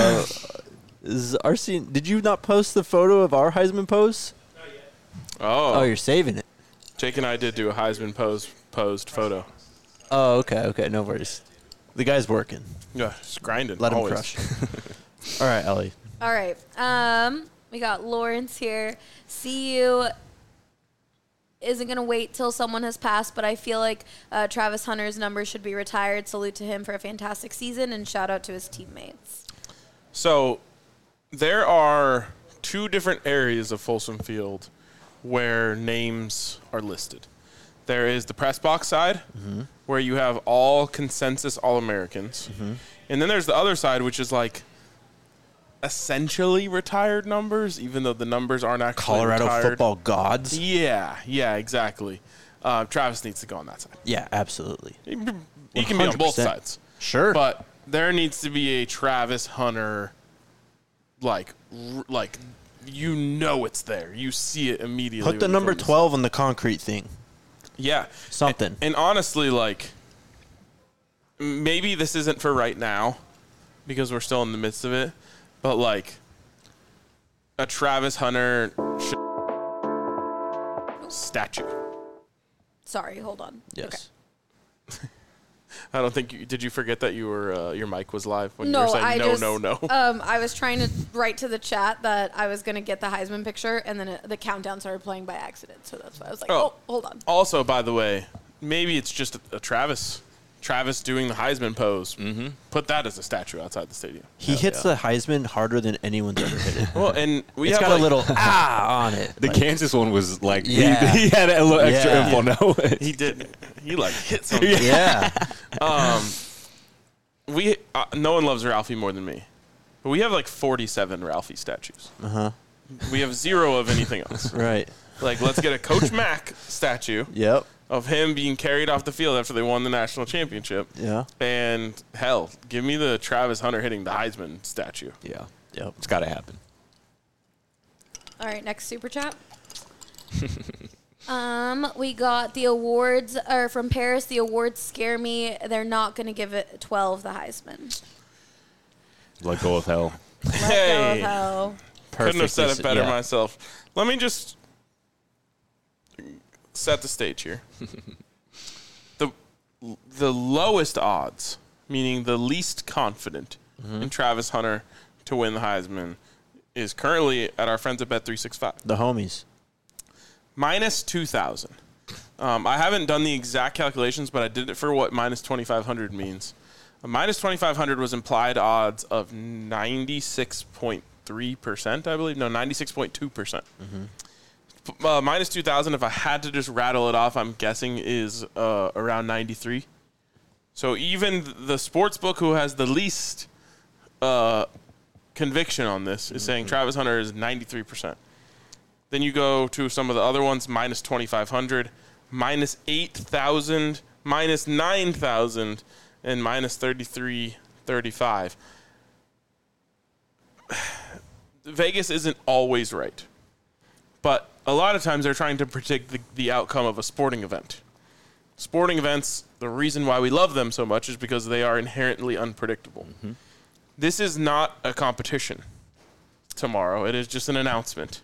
A: Did you not post the photo of our Heisman pose? Oh,
B: Oh,
A: you're saving it.
B: Jake and I did do a Heisman posed photo.
A: Oh, okay. No worries. The guy's working.
B: Yeah, just grinding.
A: Let him
B: always.
A: crush. All right, Ellie.
D: All right. We got Lawrence here. CU isn't going to wait till someone has passed, but I feel like Travis Hunter's number should be retired. Salute to him for a fantastic season, and shout out to his teammates.
B: So there are 2 different areas of Folsom Field where names are listed. There is the press box side, where you have all consensus All-Americans. And then there's the other side, which is like essentially retired numbers, even though the numbers aren't actually
A: Colorado
B: retired.
A: football gods.
B: Yeah, exactly. Travis needs to go on that side.
A: Yeah, absolutely.
B: He can be on both
A: 100%.
B: sides.
A: Sure.
B: But there needs to be a Travis Hunter, like you know it's there. You see it immediately.
A: Put the
B: when you
A: number
B: come to
A: 12 on the concrete thing.
B: Yeah.
A: Something.
B: And honestly, like, maybe this isn't for right now because we're still in the midst of it, but like a Travis Hunter statue.
D: Sorry, hold on.
A: Yes.
B: I don't think did you forget that you were your mic was live when
D: No,
B: you were saying
D: I
B: no,
D: just,
B: no.
D: I was trying to write to the chat that I was going to get the Heisman picture, and then the countdown started playing by accident. So that's why I was like, oh hold on.
B: Also, by the way, maybe it's just a Travis doing the Heisman pose. Mm-hmm. Put that as a statue outside the stadium.
A: He hits the Heisman harder than anyone's ever hit it.
B: Well, and we
A: It's
B: have
A: got
B: like,
A: a little on it.
C: The Kansas one was like,
A: Yeah.
C: he had a little extra
A: Yeah.
C: info. No,
B: he did. He like hit something.
A: Yeah.
B: We no one loves Ralphie more than me, but we have like 47 Ralphie statues. We have 0 of anything else.
A: Right.
B: Like, let's get a Coach Mack statue
A: Yep.
B: of him being carried off the field after they won the national championship.
A: Yeah.
B: And hell, give me the Travis Hunter hitting the Heisman statue.
C: Yeah,
A: Yep.
C: it's got to happen.
D: All right, next super chat. We got the awards from Paris. The awards scare me. They're not going to give it 12 the Heisman.
C: Let go of hell.
D: Let go
B: Hey.
D: of hell.
B: Couldn't have said it better
A: Yeah.
B: myself. Let me just set the stage here. The lowest odds, meaning the least confident in Travis Hunter to win the Heisman, is currently at our friends at Bet365.
A: The homies.
B: Minus 2,000. I haven't done the exact calculations, but I did it for what minus 2,500 means. A minus 2,500 was implied odds of 96.3%, I believe. No, 96.2%. Minus 2,000, if I had to just rattle it off, I'm guessing is around 93. So even the sports book who has the least conviction on this is saying Travis Hunter is 93%. Then you go to some of the other ones, minus 2,500, minus 8,000, minus 9,000, and minus 33.35. Vegas isn't always right. But a lot of times they're trying to predict the outcome of a sporting event. Sporting events, the reason why we love them so much is because they are inherently unpredictable. This is not a competition tomorrow. It is just an announcement.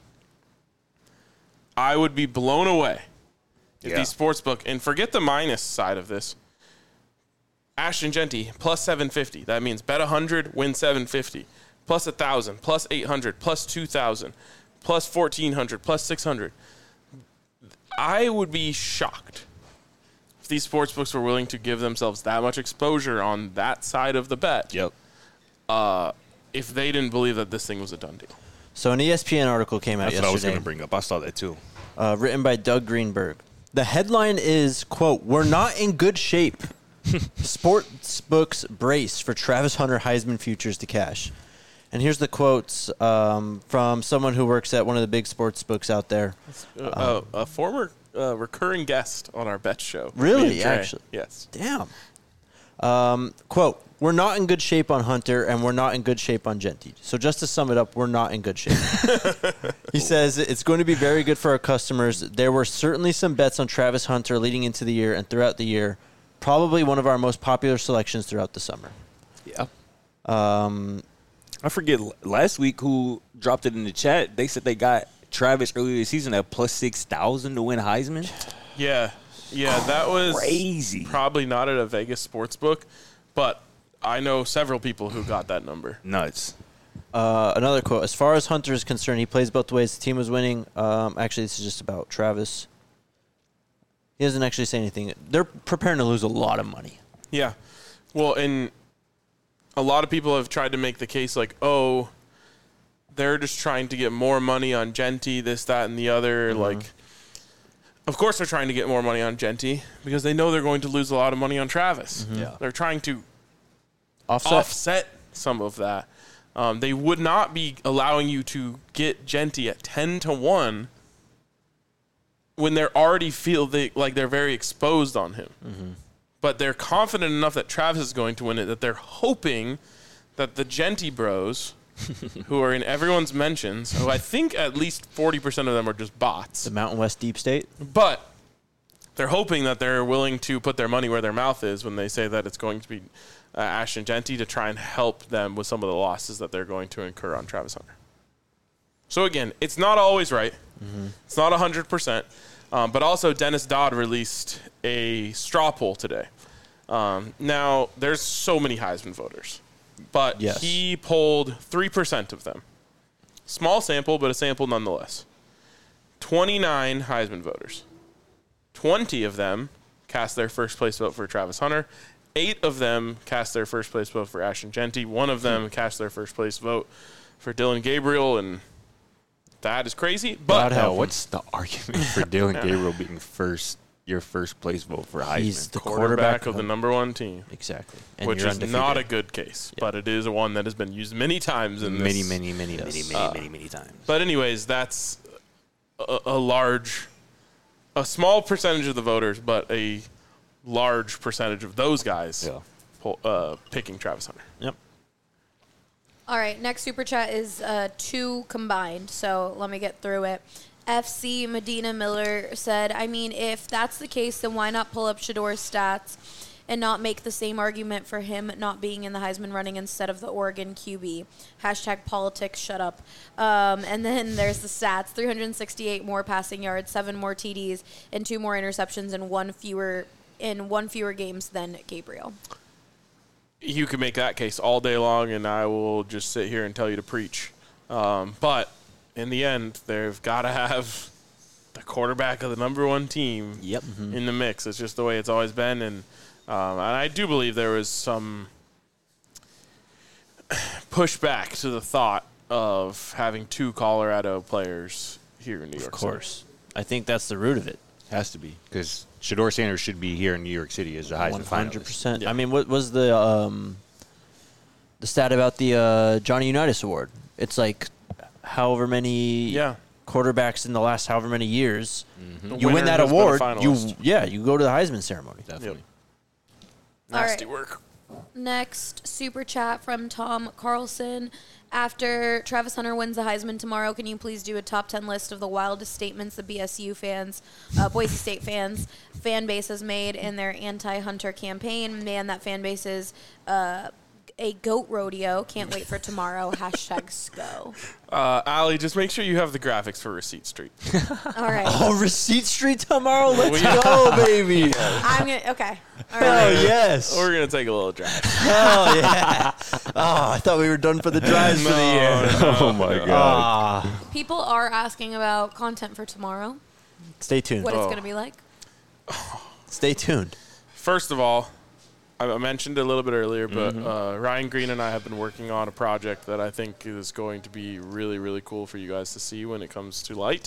B: I would be blown away if the sportsbook, and forget the minus side of this, Ashton Genty, plus 750. That means bet 100, win 750. Plus 1,000, plus 800, plus 2,000, plus 1,400, plus 600. I would be shocked if these sportsbooks were willing to give themselves that much exposure on that side of the bet.
C: Yep.
B: If they didn't believe that this thing was a done deal.
A: So an ESPN article came out
C: That's what I was
A: yesterday,
C: going to bring up. I saw that too.
A: Written by Doug Greenberg. The headline is, quote, "We're not in good shape. Sportsbooks brace for Travis Hunter Heisman futures to cash." And here's the quotes from someone who works at one of the big sports books out there.
B: A former recurring guest on our bet show.
A: Really?
B: Me and Trey.
A: Actually?
B: Yes.
A: Damn. Quote, "We're not in good shape on Hunter, and we're not in good shape on Genty." So just to sum it up, we're not in good shape. He says, "It's going to be very good for our customers. There were certainly some bets on Travis Hunter leading into the year and throughout the year. Probably one of our most popular selections throughout the summer."
C: Yeah. I forget last week who dropped it in the chat. They said they got Travis earlier this season at plus 6,000 to win Heisman.
B: Yeah. Yeah, that was
C: Crazy.
B: probably not at a Vegas sports book, but I know several people who got that number.
C: Nuts.
A: Another quote, "As far as Hunter is concerned, he plays both ways. The team was winning." Actually, this is just about Travis. He doesn't actually say anything. They're preparing to lose a lot of money.
B: Yeah. Well, and a lot of people have tried to make the case like, oh, they're just trying to get more money on Genty, this, that, and the other. Like, of course they're trying to get more money on Genty because they know they're going to lose a lot of money on Travis.
C: Yeah.
B: They're trying to
A: Offset.
B: some of that. They would not be allowing you to get Genty at 10-1 when they're already feel like they're very exposed on him. But they're confident enough that Travis is going to win it that they're hoping that the Genty bros, who are in everyone's mentions, who I think at least 40% of them are just bots,
A: The Mountain West Deep State.
B: but they're hoping that they're willing to put their money where their mouth is when they say that it's going to be Ashton Genty to try and help them with some of the losses that they're going to incur on Travis Hunter. So again, it's not always right. It's not 100%. But also Dennis Dodd released a straw poll today. Now, there's so many Heisman voters, but
A: Yes.
B: he polled 3% of them. Small sample, but a sample nonetheless. 29 Heisman voters. 20 of them cast their first place vote for Travis Hunter. 8 of them cast their first place vote for Ashton Genty. 1 of them cast their first place vote for Dylan Gabriel, and that is crazy. But
A: God help him.
C: What's the argument for Dylan Gabriel being your first place vote for Heisman?
A: He's the
B: quarterback of the number one team,
A: Exactly. And
B: which
A: you're
B: is
A: undefeated.
B: not a good case, but it is one that has been used many times in this.
C: many times.
B: But anyways, that's a small percentage of the voters, but a large percentage of those guys picking Travis Hunter.
A: Yep.
D: All right, next super chat is 2 combined, so let me get through it. FC Medina Miller said, "I mean, if that's the case, then why not pull up Shador's stats and not make the same argument for him not being in the Heisman running instead of the Oregon QB? Hashtag politics, shut up." And then there's the stats: 368 more passing yards, 7 more TDs, and 2 more interceptions, and one fewer games than Gabriel.
B: You can make that case all day long, and I will just sit here and tell you to preach. But in the end, they've got to have the quarterback of the number one team
C: Yep.
B: in the mix. It's just the way it's always been. And I do believe there was some pushback to the thought of having 2 Colorado players here in New York
A: Of course. I think that's the root of it.
C: Has to be, because Shedeur Sanders should be here in New York City as a Heisman finalist.
A: 100%.
B: Yeah.
A: I mean, what was the stat about the Johnny Unitas Award? It's like however many quarterbacks in the last however many years.
B: The
A: You win
B: winner
A: that
B: has been a
A: award,
B: finalist.
A: you go to the Heisman ceremony.
C: Definitely.
B: Nasty
D: All
B: work.
D: Next super chat from Tom Carlson. After Travis Hunter wins the Heisman tomorrow, can you please do a top 10 list of the wildest statements the BSU fans, Boise State fans, fan base has made in their anti-Hunter campaign? Man, that fan base is a goat rodeo. Can't wait for tomorrow. #SCO.
B: Allie, just make sure you have the graphics for Receipt Street.
D: All right.
A: Oh, Receipt Street tomorrow? Let's go, baby.
D: I'm going to, okay. All
A: Hell
D: right.
A: yes.
B: We're going to take a little drive.
A: Hell yeah. Oh, I thought we were done for the drives for the year.
C: Oh, my God.
D: People are asking about content for tomorrow,
A: Stay tuned.
D: what it's going to be like.
A: Stay tuned.
B: First of all, I mentioned it a little bit earlier, but Ryan Green and I have been working on a project that I think is going to be really, really cool for you guys to see when it comes to light.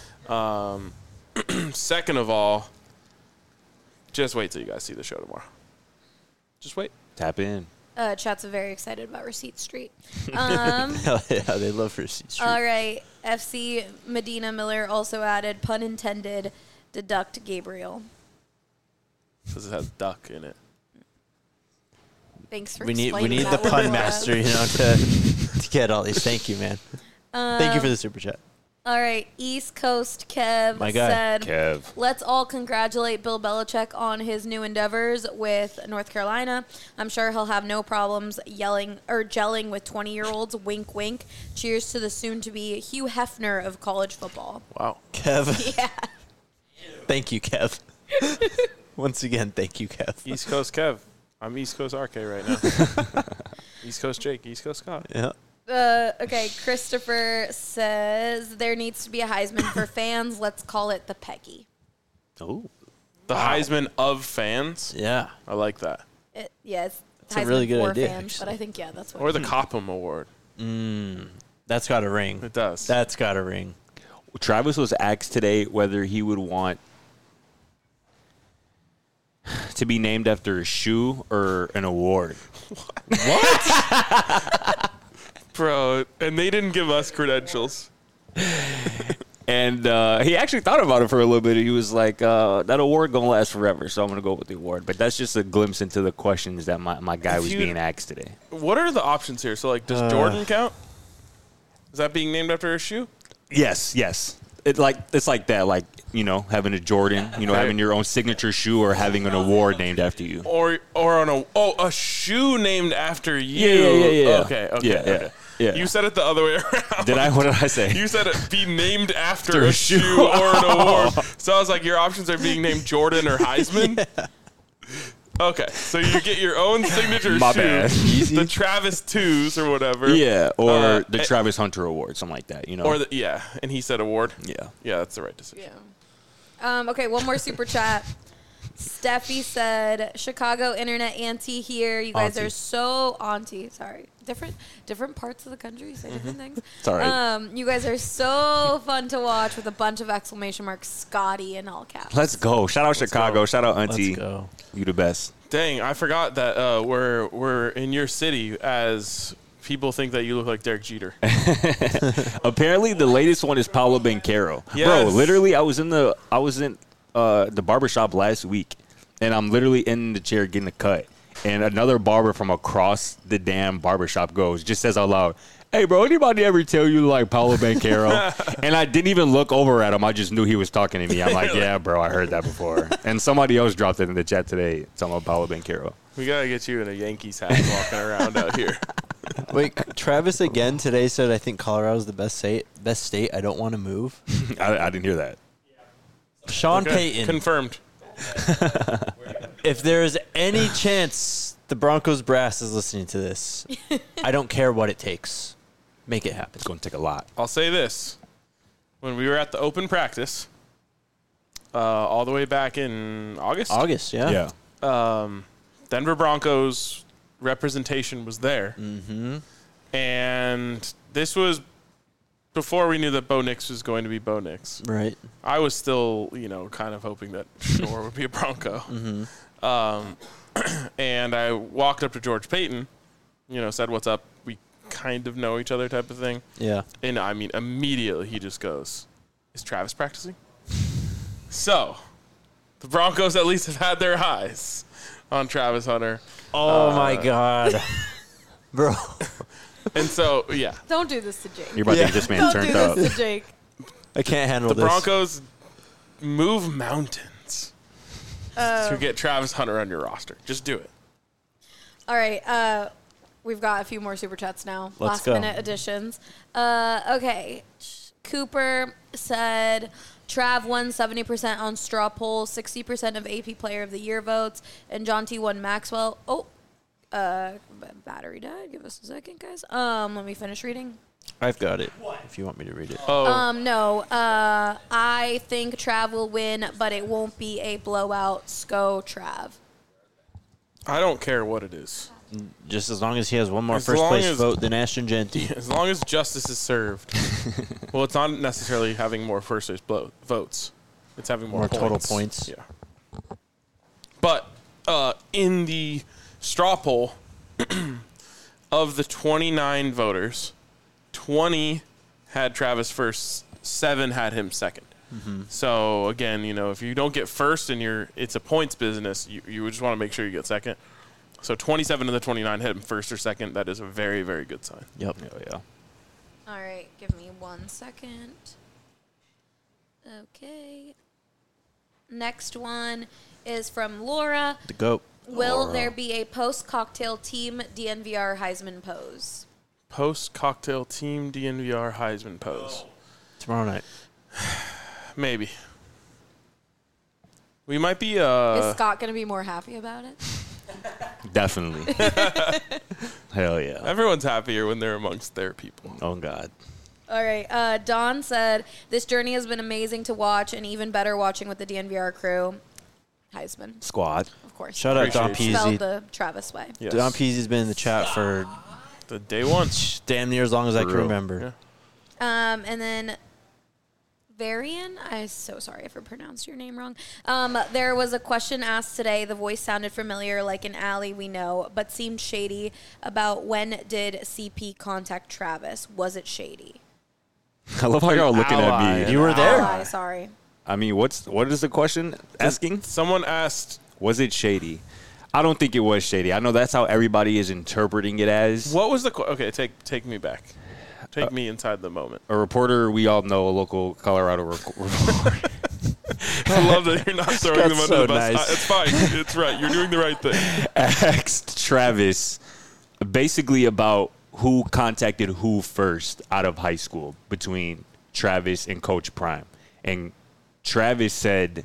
B: Second of all, just wait till you guys see the show tomorrow. Just wait.
C: Tap in.
D: Chat's very excited about Receipt Street.
A: Hell yeah, they love Receipt Street.
D: All right. FC Medina Miller also added, pun intended, deduct Gabriel.
B: Because it has duck in it.
D: Thanks for
A: We need
D: explaining
A: the
D: that one,
A: pun
D: Laura.
A: master, to get all these. Thank you, man. Thank you for the super chat.
D: All right. East Coast Kev
A: My guy.
D: said,
C: Kev.
D: let's all congratulate Bill Belichick on his new endeavors with North Carolina. I'm sure he'll have no problems yelling or gelling with 20-year-olds. Wink, wink. Cheers to the soon-to-be Hugh Hefner of college football.
B: Wow.
A: Kev.
D: Yeah.
A: Thank you, Kev. Once again, thank you, Kev.
B: East Coast Kev. I'm East Coast RK right now. East Coast Jake, East Coast Scott.
A: Yeah.
D: Okay, Christopher says there needs to be a Heisman for fans. Let's call it the Peggy.
C: Oh.
B: The Heisman of fans.
A: Yeah.
B: I like that.
D: It's
A: a
D: Heisman
A: really good
D: for
A: idea,
D: fans, but
A: actually.
D: I think, yeah, that's what
B: Or the Copham Award.
A: That's got a ring.
B: It does.
A: That's got a ring.
C: Travis was asked today whether he would want to be named after a shoe or an award.
B: Bro, and they didn't give us credentials.
C: And he actually thought about it for a little bit. He was like, that award going to last forever, so I'm going to go with the award. But that's just a glimpse into the questions that my guy
B: If
C: was
B: you-
C: being asked today.
B: What are the options here? So, like, does Jordan count? Is that being named after a shoe?
C: Yes. It's like that, like, having a Jordan, having your own signature shoe or having an award named after you.
B: Or on a shoe named after you?
C: Yeah.
B: Okay.
C: Yeah.
B: You said it the other way around.
C: What did I say?
B: You said it be named after
C: After
B: a
C: a shoe.
B: shoe or an award. So I was like, your options are being named Jordan or Heisman? Okay, so you get your own signature
C: My
B: shoe,
C: bad.
B: the Travis Twos or whatever.
C: Yeah, or the
B: and-
C: Travis Hunter Award, something like that,
B: Or and he said award.
C: Yeah.
B: Yeah, that's the right decision.
D: Yeah. Okay, one more super chat. Steffi said, Chicago internet auntie here. You guys
C: Auntie.
D: are so auntie. Sorry. Different parts of the country say different things.
C: It's all right.
D: You guys are so fun to watch with a bunch of exclamation marks, Scotty in all caps.
C: Let's go. Shout out Chicago.
B: go.
C: Shout out Auntie.
A: Let's go.
C: You the best.
B: Dang, I forgot that we're in your city as people think that you look like Derek Jeter.
C: Apparently, the latest one is Paulo Banchero.
B: Yes.
C: Bro, literally, I was in the barbershop last week, and I'm literally in the chair getting a cut. And another barber from across the damn barbershop just says out loud, "Hey, bro, anybody ever tell you like Paulo Banchero?" And I didn't even look over at him. I just knew he was talking to me. I'm like, "Yeah, bro, I heard that before." And somebody else dropped it in the chat today, talking about Paulo Banchero.
B: We gotta get you in a Yankees hat walking around out here.
A: Wait, Travis again today said, I think Colorado's the best state. I don't want to move.
C: I didn't hear that.
A: Sean
B: Okay,
A: Payton.
B: confirmed.
A: If there is any chance the Broncos brass is listening to this, I don't care what it takes. Make it happen.
C: It's going to take a lot.
B: I'll say this: when we were at the open practice, all the way back in August.
A: August, yeah.
B: Denver Broncos representation was there. Mm-hmm. And this was before we knew that Bo Nix was going to be Bo Nix.
A: Right.
B: I was still, kind of hoping that Shore would be a Bronco. Mm-hmm. And I walked up to George Payton, said, "What's up?" We kind of know each other type of thing.
A: Yeah.
B: And I mean, immediately he just goes, "Is Travis practicing?" So the Broncos at least have had their eyes on Travis Hunter.
A: Oh, my God. Bro.
B: And so, yeah.
D: Don't do this to Jake.
C: You're about to get this man
D: Don't
C: turned
D: do
C: up.
D: this to Jake.
A: I can't handle
B: The
A: this.
B: Broncos move mountains to get Travis Hunter on your roster. Just do it.
D: All right. We've got a few more Super Chats now.
A: Let's go.
D: Last-minute additions. Okay. Cooper said Trav won 70% on straw poll, 60% of AP Player of the Year votes, and John T won Maxwell. Oh, battery died. Give us a second, guys. Let me finish reading.
A: I've got it, if you want me to read it.
D: No. I think Trav will win, but it won't be a blowout. Sko Trav.
B: I don't care what it is.
A: Just as long as he has one more
B: As
A: first
B: long
A: place
B: as-
A: vote than Ashton Genty.
B: As long as justice is served. Well, it's not necessarily having more first place votes. It's having more
A: total points.
B: Yeah. But in the straw poll, of the 29 voters, 20 had Travis first, 7 had him second. Mm-hmm. So, again, if you don't get first and it's a points business, you just want to make sure you get second. So 27 of the 29 hit him first or second. That is a very, very good sign.
A: Yep.
C: Yeah.
D: All right, give me 1 second. Okay. Next one is from Laura.
A: The GOAT.
D: Will there be a post-cocktail team DNVR Heisman pose?
B: Post-cocktail team DNVR Heisman pose.
A: Tomorrow night.
B: Maybe. We might be...
D: Is Scott going to be more happy about it?
C: Definitely. Hell yeah.
B: Everyone's happier when they're amongst their people.
C: Oh, God.
D: All right. Don said, this journey has been amazing to watch and even better watching with the DNVR crew. Heisman,
C: Squad.
D: of course.
A: Shout out Don
B: Appreciate
D: Spelled
A: Peasy.
D: the Travis way.
B: Yes.
A: Don Peasy's been in the chat for
B: The day one.
A: damn near as long as I can
C: real.
A: remember.
B: Yeah.
D: And then Varian, I'm so sorry if I pronounced your name wrong. There was a question asked today. The voice sounded familiar, like an Allie we know, but seemed shady about when did CP contact Travis. Was it shady?
C: I love how y'all looking
A: Ally.
C: at me.
A: You were there.
D: Ally, sorry.
C: I mean, what is the question asking?
B: Someone asked,
C: Was it shady? I don't think it was shady. I know that's how everybody is interpreting it as.
B: what was the... Okay, take me back. Take me inside the moment.
C: A reporter we all know, a local Colorado reporter.
B: I love that you're not throwing them under
A: so
B: the bus.
A: nice.
B: It's fine. It's right. You're doing the right thing.
C: asked Travis basically about who contacted who first out of high school between Travis and Coach Prime. And Travis said,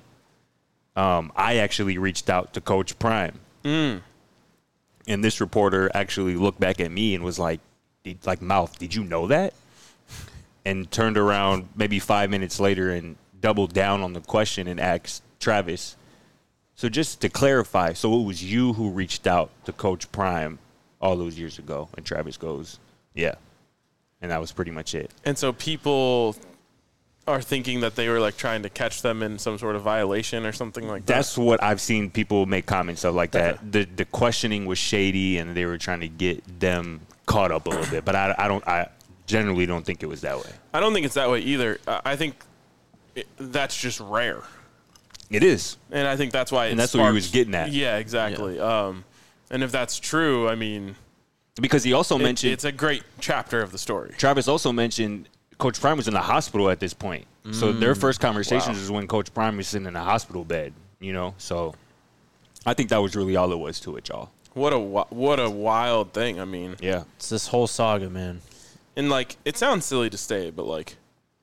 C: I actually reached out to Coach Prime. And this reporter actually looked back at me and was like, Mouth, did you know that? And turned around maybe 5 minutes later and doubled down on the question and asked Travis. So just to clarify, so it was you who reached out to Coach Prime all those years ago? And Travis goes, yeah. And that was pretty much it.
B: And so people are thinking that they were like trying to catch them in some sort of violation or something like that.
C: That's what I've seen people make comments of like that. The questioning was shady and they were trying to get them caught up a little bit. But I generally don't think it was that way.
B: I don't think it's that way either. I think that's just rare.
C: It is.
B: And I think that's why
C: And that's what he was getting at.
B: Yeah, exactly. And if that's true, I mean,
C: Because he also mentioned
B: it's a great chapter of the story.
C: Travis also mentioned Coach Prime was in the hospital at this point. So their first conversations is when Coach Prime was sitting in a hospital bed, So I think that was really all it was to it, y'all.
B: What a wild thing. I mean,
C: Yeah.
A: It's this whole saga, man.
B: and like it sounds silly to say, but like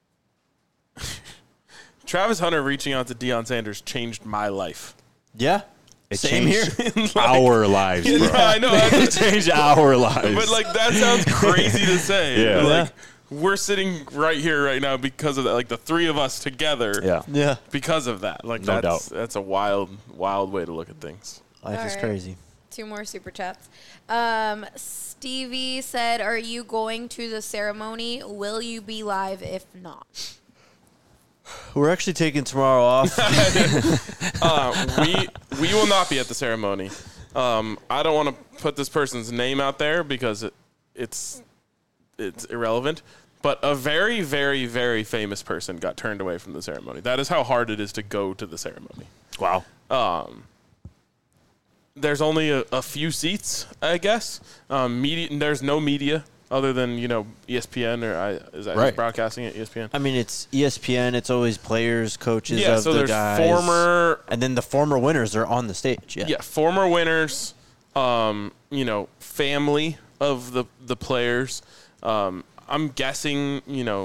B: Travis Hunter reaching out to Deion Sanders changed my life.
A: Yeah.
C: It
A: Same here.
C: changed our lives, bro.
B: I know.
C: It changed our lives.
B: But like that sounds crazy to say.
C: Yeah.
B: But, like we're sitting right here right now because of that. Like the three of us together.
C: Yeah.
A: Yeah.
B: Because of that. Like
C: No doubt.
B: that's a wild way to look at things.
A: Life
D: All
A: is
D: right.
A: crazy.
D: 2 more super chats. Stevie said, "Are you going to the ceremony? Will you be live if not?"
A: We're actually taking tomorrow off.
B: We will not be at the ceremony. I don't want to put this person's name out there because it's irrelevant. But a very, very, very famous person got turned away from the ceremony. That is how hard it is to go to the ceremony.
C: Wow.
B: There's only a few seats, I guess. There's no media other than ESPN or is that
C: Right.
B: broadcasting at ESPN?
A: I mean, it's ESPN. It's always players, coaches
B: Yeah,
A: of
B: so
A: the
B: there's
A: guys.
B: former
A: And then the former winners are on the stage. Yeah.
B: former winners, family of the players. I'm guessing,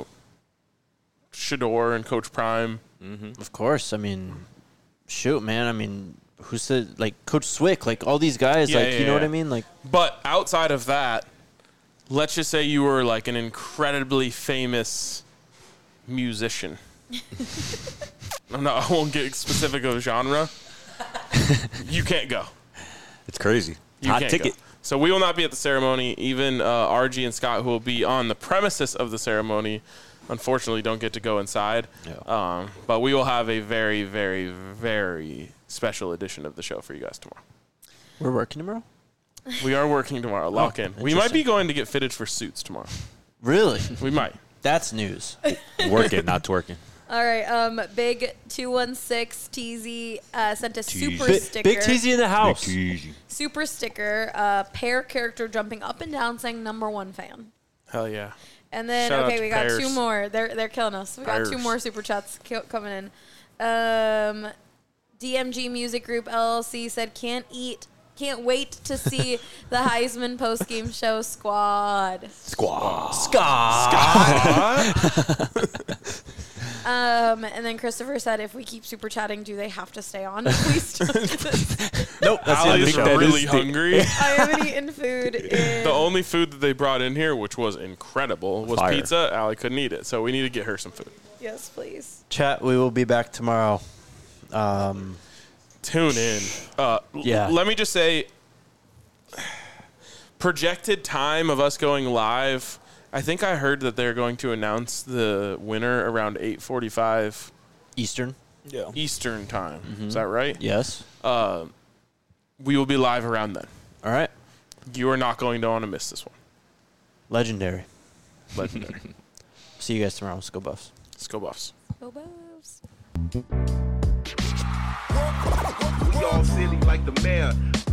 B: Shador and Coach Prime.
A: Of course. I mean, shoot, man. I mean, who said, like, Coach Swick, like, all these guys,
B: Yeah,
A: like,
B: yeah,
A: you know what
B: yeah.
A: I mean? Like,
B: But outside of that, let's just say you were like an incredibly famous musician. I won't get specific of genre. You can't go.
C: It's crazy.
B: You
C: Hot
B: can't
C: ticket.
B: go. So we will not be at the ceremony. Even RG and Scott, who will be on the premises of the ceremony, unfortunately don't get to go inside.
C: Yeah.
B: But we will have a very, very, very special edition of the show for you guys tomorrow.
A: we're working tomorrow?
B: We are working tomorrow. Lock in. We might be going to get fitted for suits tomorrow.
A: Really?
B: We might.
A: That's news.
C: Working, not twerking.
D: All right. Big 216 TZ sent a super
C: Big
D: sticker.
A: Big TZ in the house.
D: Super sticker. Pair character jumping up and down saying #1 fan.
B: Hell yeah.
D: And then
B: Shout out to
D: we got
B: Pears.
D: 2 more. They're killing us. We got 2
B: Pears.
D: more super chats coming in. DMG Music Group LLC said can't wait to see the Heisman postgame show squad. And then Christopher said, if we keep super chatting, do they have to stay on? Please don't do this.
A: Nope. That's the end of
B: Allie's
A: the show.
B: really hungry.
D: I haven't eaten food in...
B: The only food that they brought in here, which was incredible, was
C: Fire.
B: pizza. Allie couldn't eat it, so we need to get her some food.
D: Yes, please.
A: Chat, we will be back tomorrow.
B: Tune in.
A: Yeah.
B: Let me just say, projected time of us going live, I think I heard that they're going to announce the winner around 8:45
A: Eastern.
E: Yeah.
B: Eastern time. Is that right?
A: Yes.
B: We will be live around then.
A: All right.
B: You are not going to want to miss this one.
A: Legendary.
B: Legendary.
A: See you guys tomorrow. Let's go Buffs.
B: Let's go Buffs.
D: Go Buffs.
F: We all silly like the mayor.